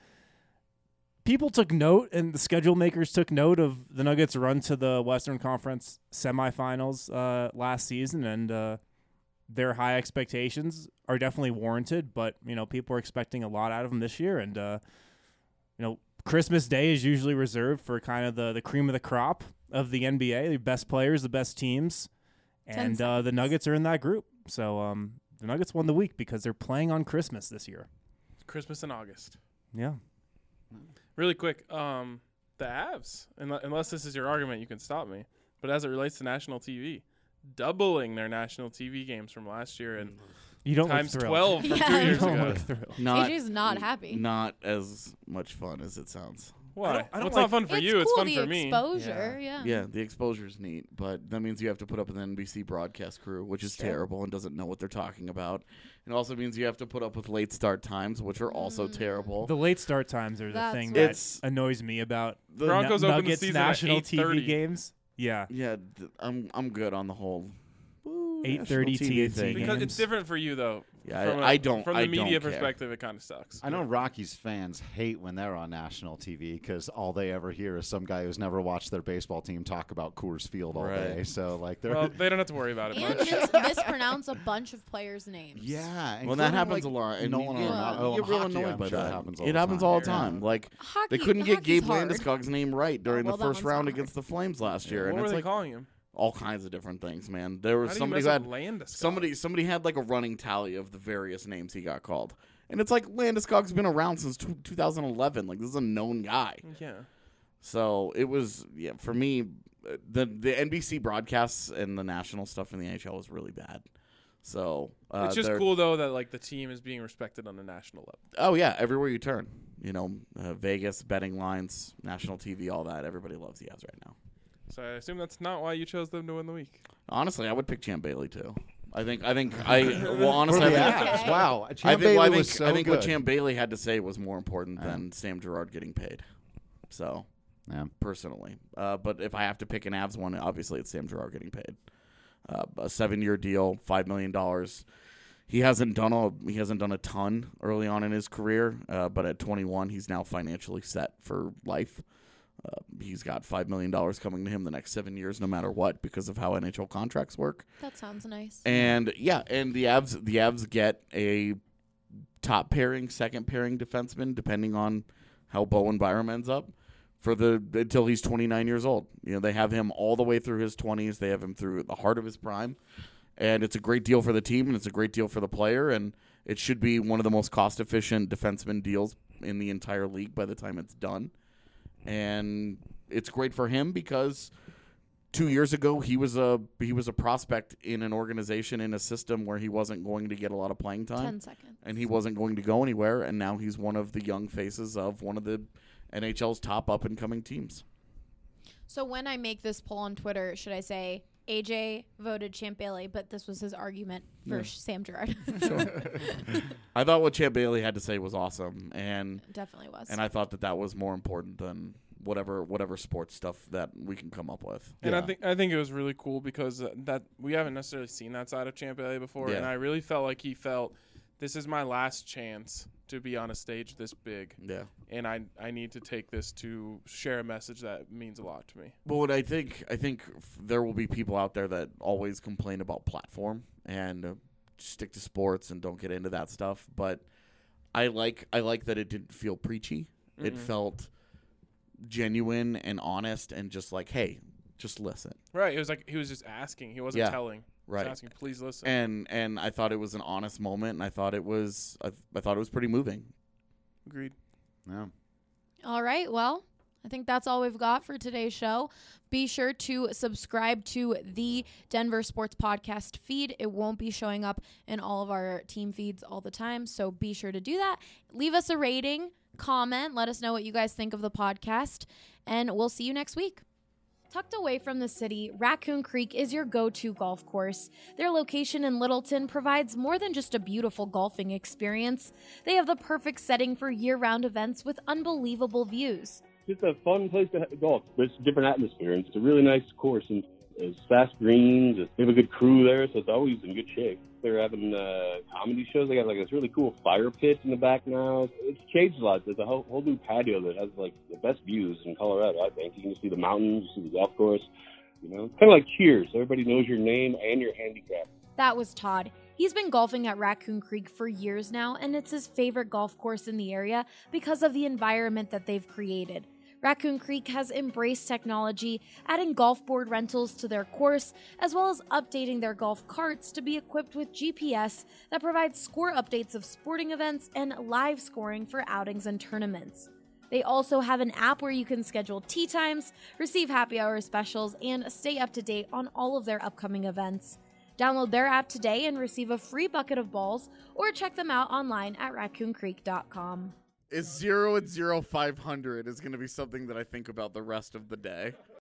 D: people took note, and the schedule makers took note of the Nuggets' run to the Western Conference semifinals uh, last season, and uh, their high expectations are definitely warranted. But you know, people are expecting a lot out of them this year, and uh, you know, Christmas Day is usually reserved for kind of the the cream of the crop of the N B A, the best players, the best teams, and uh, the Nuggets are in that group. So um, the Nuggets won the week because they're playing on Christmas this year.
C: Christmas in August.
D: Yeah.
C: Really quick, um, the Avs, unle- unless this is your argument, you can stop me. But as it relates to national T V, doubling their national T V games from last year and
D: You don't look
C: times
D: thrilled.
C: twelve from
J: Yeah.
C: two years
D: You don't
C: ago.
D: look thrilled.
F: Not,
J: A J's not happy.
F: Not as much fun as it sounds.
C: Why?
D: I don't- I don't
C: What's
D: like-
C: not fun for
J: it's
C: you?
J: cool,
C: It's fun
J: the
C: for me.
J: exposure, yeah.
F: Yeah, the exposure's neat, but that means you have to put up with an N B C broadcast crew, which is
J: Sure.
F: terrible and doesn't know what they're talking about. It also means you have to put up with late start times, which are also terrible.
D: The late start times are the
J: That's
D: thing
J: right.
D: that
F: It's-
D: annoys me about
F: The
C: Broncos
D: Nu-
C: open the
D: Nuggets
C: season at
D: national T V
C: eight thirty.
D: games. Yeah.
F: Yeah, th- I'm I'm good on the whole woo,
D: eight thirty
F: national T V
D: T N T
F: thing.
C: Because it's
D: games.
C: different for you, though.
F: Yeah,
C: from
F: I-
C: a-
F: I don't-
C: From
F: I
C: the media
F: don't care.
C: perspective, it kind of sucks.
E: I know Rockies fans hate when they're on national T V because all they ever hear is some guy who's never watched their baseball team talk about Coors Field all
F: Right.
E: day. So like they're
C: Well, they don't have to worry about it
J: And
C: much.
J: mis- mispronounce a bunch of players' names.
E: yeah.
F: Well, that
E: including,
F: happens
E: like,
F: a lot. And
E: Nolan
F: you,
E: Arenado.
F: get,
E: Oh,
F: you get real
E: hockey,
F: annoyed
E: I'm
F: by
E: sure
F: that.
E: it happens all
F: it
E: the
F: happens
E: time.
F: all the
E: Yeah.
F: time. Like
J: Hockey,
F: they couldn't get
J: hockey's
F: Gabe
J: hard.
F: Landeskog's name right during
J: well,
F: the
J: that
F: first
J: one's
F: round
J: hard.
F: against the Flames last year,
C: What
F: and
C: were
F: it's
C: they
F: like
C: calling him?
F: all kinds of different things, man. There was
C: How do you
F: somebody
C: mess
F: who
C: up
F: had
C: Landeskog?
F: somebody somebody had like a running tally of the various names he got called, and it's like Landeskog's been around since two thousand eleven. Like this is a known guy.
C: Yeah.
F: So it was yeah for me. uh, The the N B C broadcasts and the national stuff in the N H L was really bad. So Uh,
C: it's just
F: they're-
C: cool though that like the team is being respected on a national level.
F: Oh yeah, everywhere you turn, you know, uh, Vegas betting lines, national T V, all that. Everybody loves the Avs right now.
C: So I assume that's not why you chose them to win the week.
F: Honestly, I would pick Champ Bailey too. I think. I think. I well, honestly,
E: the
F: I think,
E: Avs, wow.
F: I
E: Champ
F: think,
E: Bailey
F: well, I think,
E: was so
F: I think what
E: good.
F: Champ Bailey had to say was more important than Sam Girard getting paid. So,
E: yeah,
F: personally, uh, but if I have to pick an Avs one, obviously it's Sam Girard getting paid. Uh, a seven-year deal, five million dollars. He hasn't done a he hasn't done a ton early on in his career, uh, but at twenty-one, he's now financially set for life. Uh, he's got five million dollars coming to him the next seven years, no matter what, because of how N H L contracts work.
J: That sounds nice.
F: And yeah, and the Avs the Avs get a top pairing, second pairing defenseman, depending on how Bowen Byram ends up, for the until he's twenty-nine years old. You know, they have him all the way through his twenties. They have him through the heart of his prime. And it's a great deal for the team, and it's a great deal for the player, and it should be one of the most cost-efficient defenseman deals in the entire league by the time it's done. And it's great for him because two years ago he was a he was a prospect in an organization in a system where he wasn't going to get a lot of playing time.
J: Ten seconds.
F: And he wasn't going to go anywhere, and now he's one of the young faces of one of the N H L's top up-and-coming teams.
J: So when I make this poll on Twitter, should I say A J voted Champ Bailey, but this was his argument for
F: Yeah.
J: Sam Girard?
F: I thought what Champ Bailey had to say was awesome, and
J: Definitely was.
F: And I thought that that was more important than whatever whatever sports stuff that we can come up with.
C: And I think I think it was really cool because uh, that we haven't necessarily seen that side of Champ Bailey before,
F: Yeah.
C: and I really felt like he felt this is my last chance to be on a stage this big.
F: Yeah.
C: And I I need to take this to share a message that means a lot to me.
F: But what I think I think f- there will be people out there that always complain about platform and uh, stick to sports and don't get into that stuff. But I like I like that it didn't feel preachy. It
C: Mhm.
F: felt genuine and honest and just like, hey, just listen.
C: Right. It was like he was just asking. He wasn't
F: Yeah.
C: telling. He was
F: Right.
C: asking, please listen.
F: And and I thought it was an honest moment, and I thought it was I, I thought it was pretty moving.
C: Agreed.
E: Yeah.
J: All right. Well, I think that's all we've got for today's show. Be sure to subscribe to the Denver Sports Podcast feed. It won't be showing up in all of our team feeds all the time, so be sure to do that. Leave us a rating, comment, let us know what you guys think of the podcast, and we'll see you next week.
A: Tucked away from the city, Raccoon Creek is your go-to golf course. Their location in Littleton provides more than just a beautiful golfing experience. They have the perfect setting for year-round events with unbelievable views.
B: It's a fun place to golf. It's a different atmosphere, and it's a really nice course, and it's fast greens. They have a good crew there, so it's always in good shape. They're having uh, comedy shows. They got like this really cool fire pit in the back now. It's changed a lot. There's a whole, whole new patio that has like the best views in Colorado, I think. You can see the mountains, you see the golf course. You know, kind of like Cheers. Everybody knows your name and your handicap.
A: That was Todd. He's been golfing at Raccoon Creek for years now, and it's his favorite golf course in the area because of the environment that they've created. Raccoon Creek has embraced technology, adding golf board rentals to their course, as well as updating their golf carts to be equipped with G P S that provides score updates of sporting events and live scoring for outings and tournaments. They also have an app where you can schedule tee times, receive happy hour specials, and stay up to date on all of their upcoming events. Download their app today and receive a free bucket of balls, or check them out online at raccoon creek dot com.
F: Is zero at zero five hundred is going to be something that I think about the rest of the day.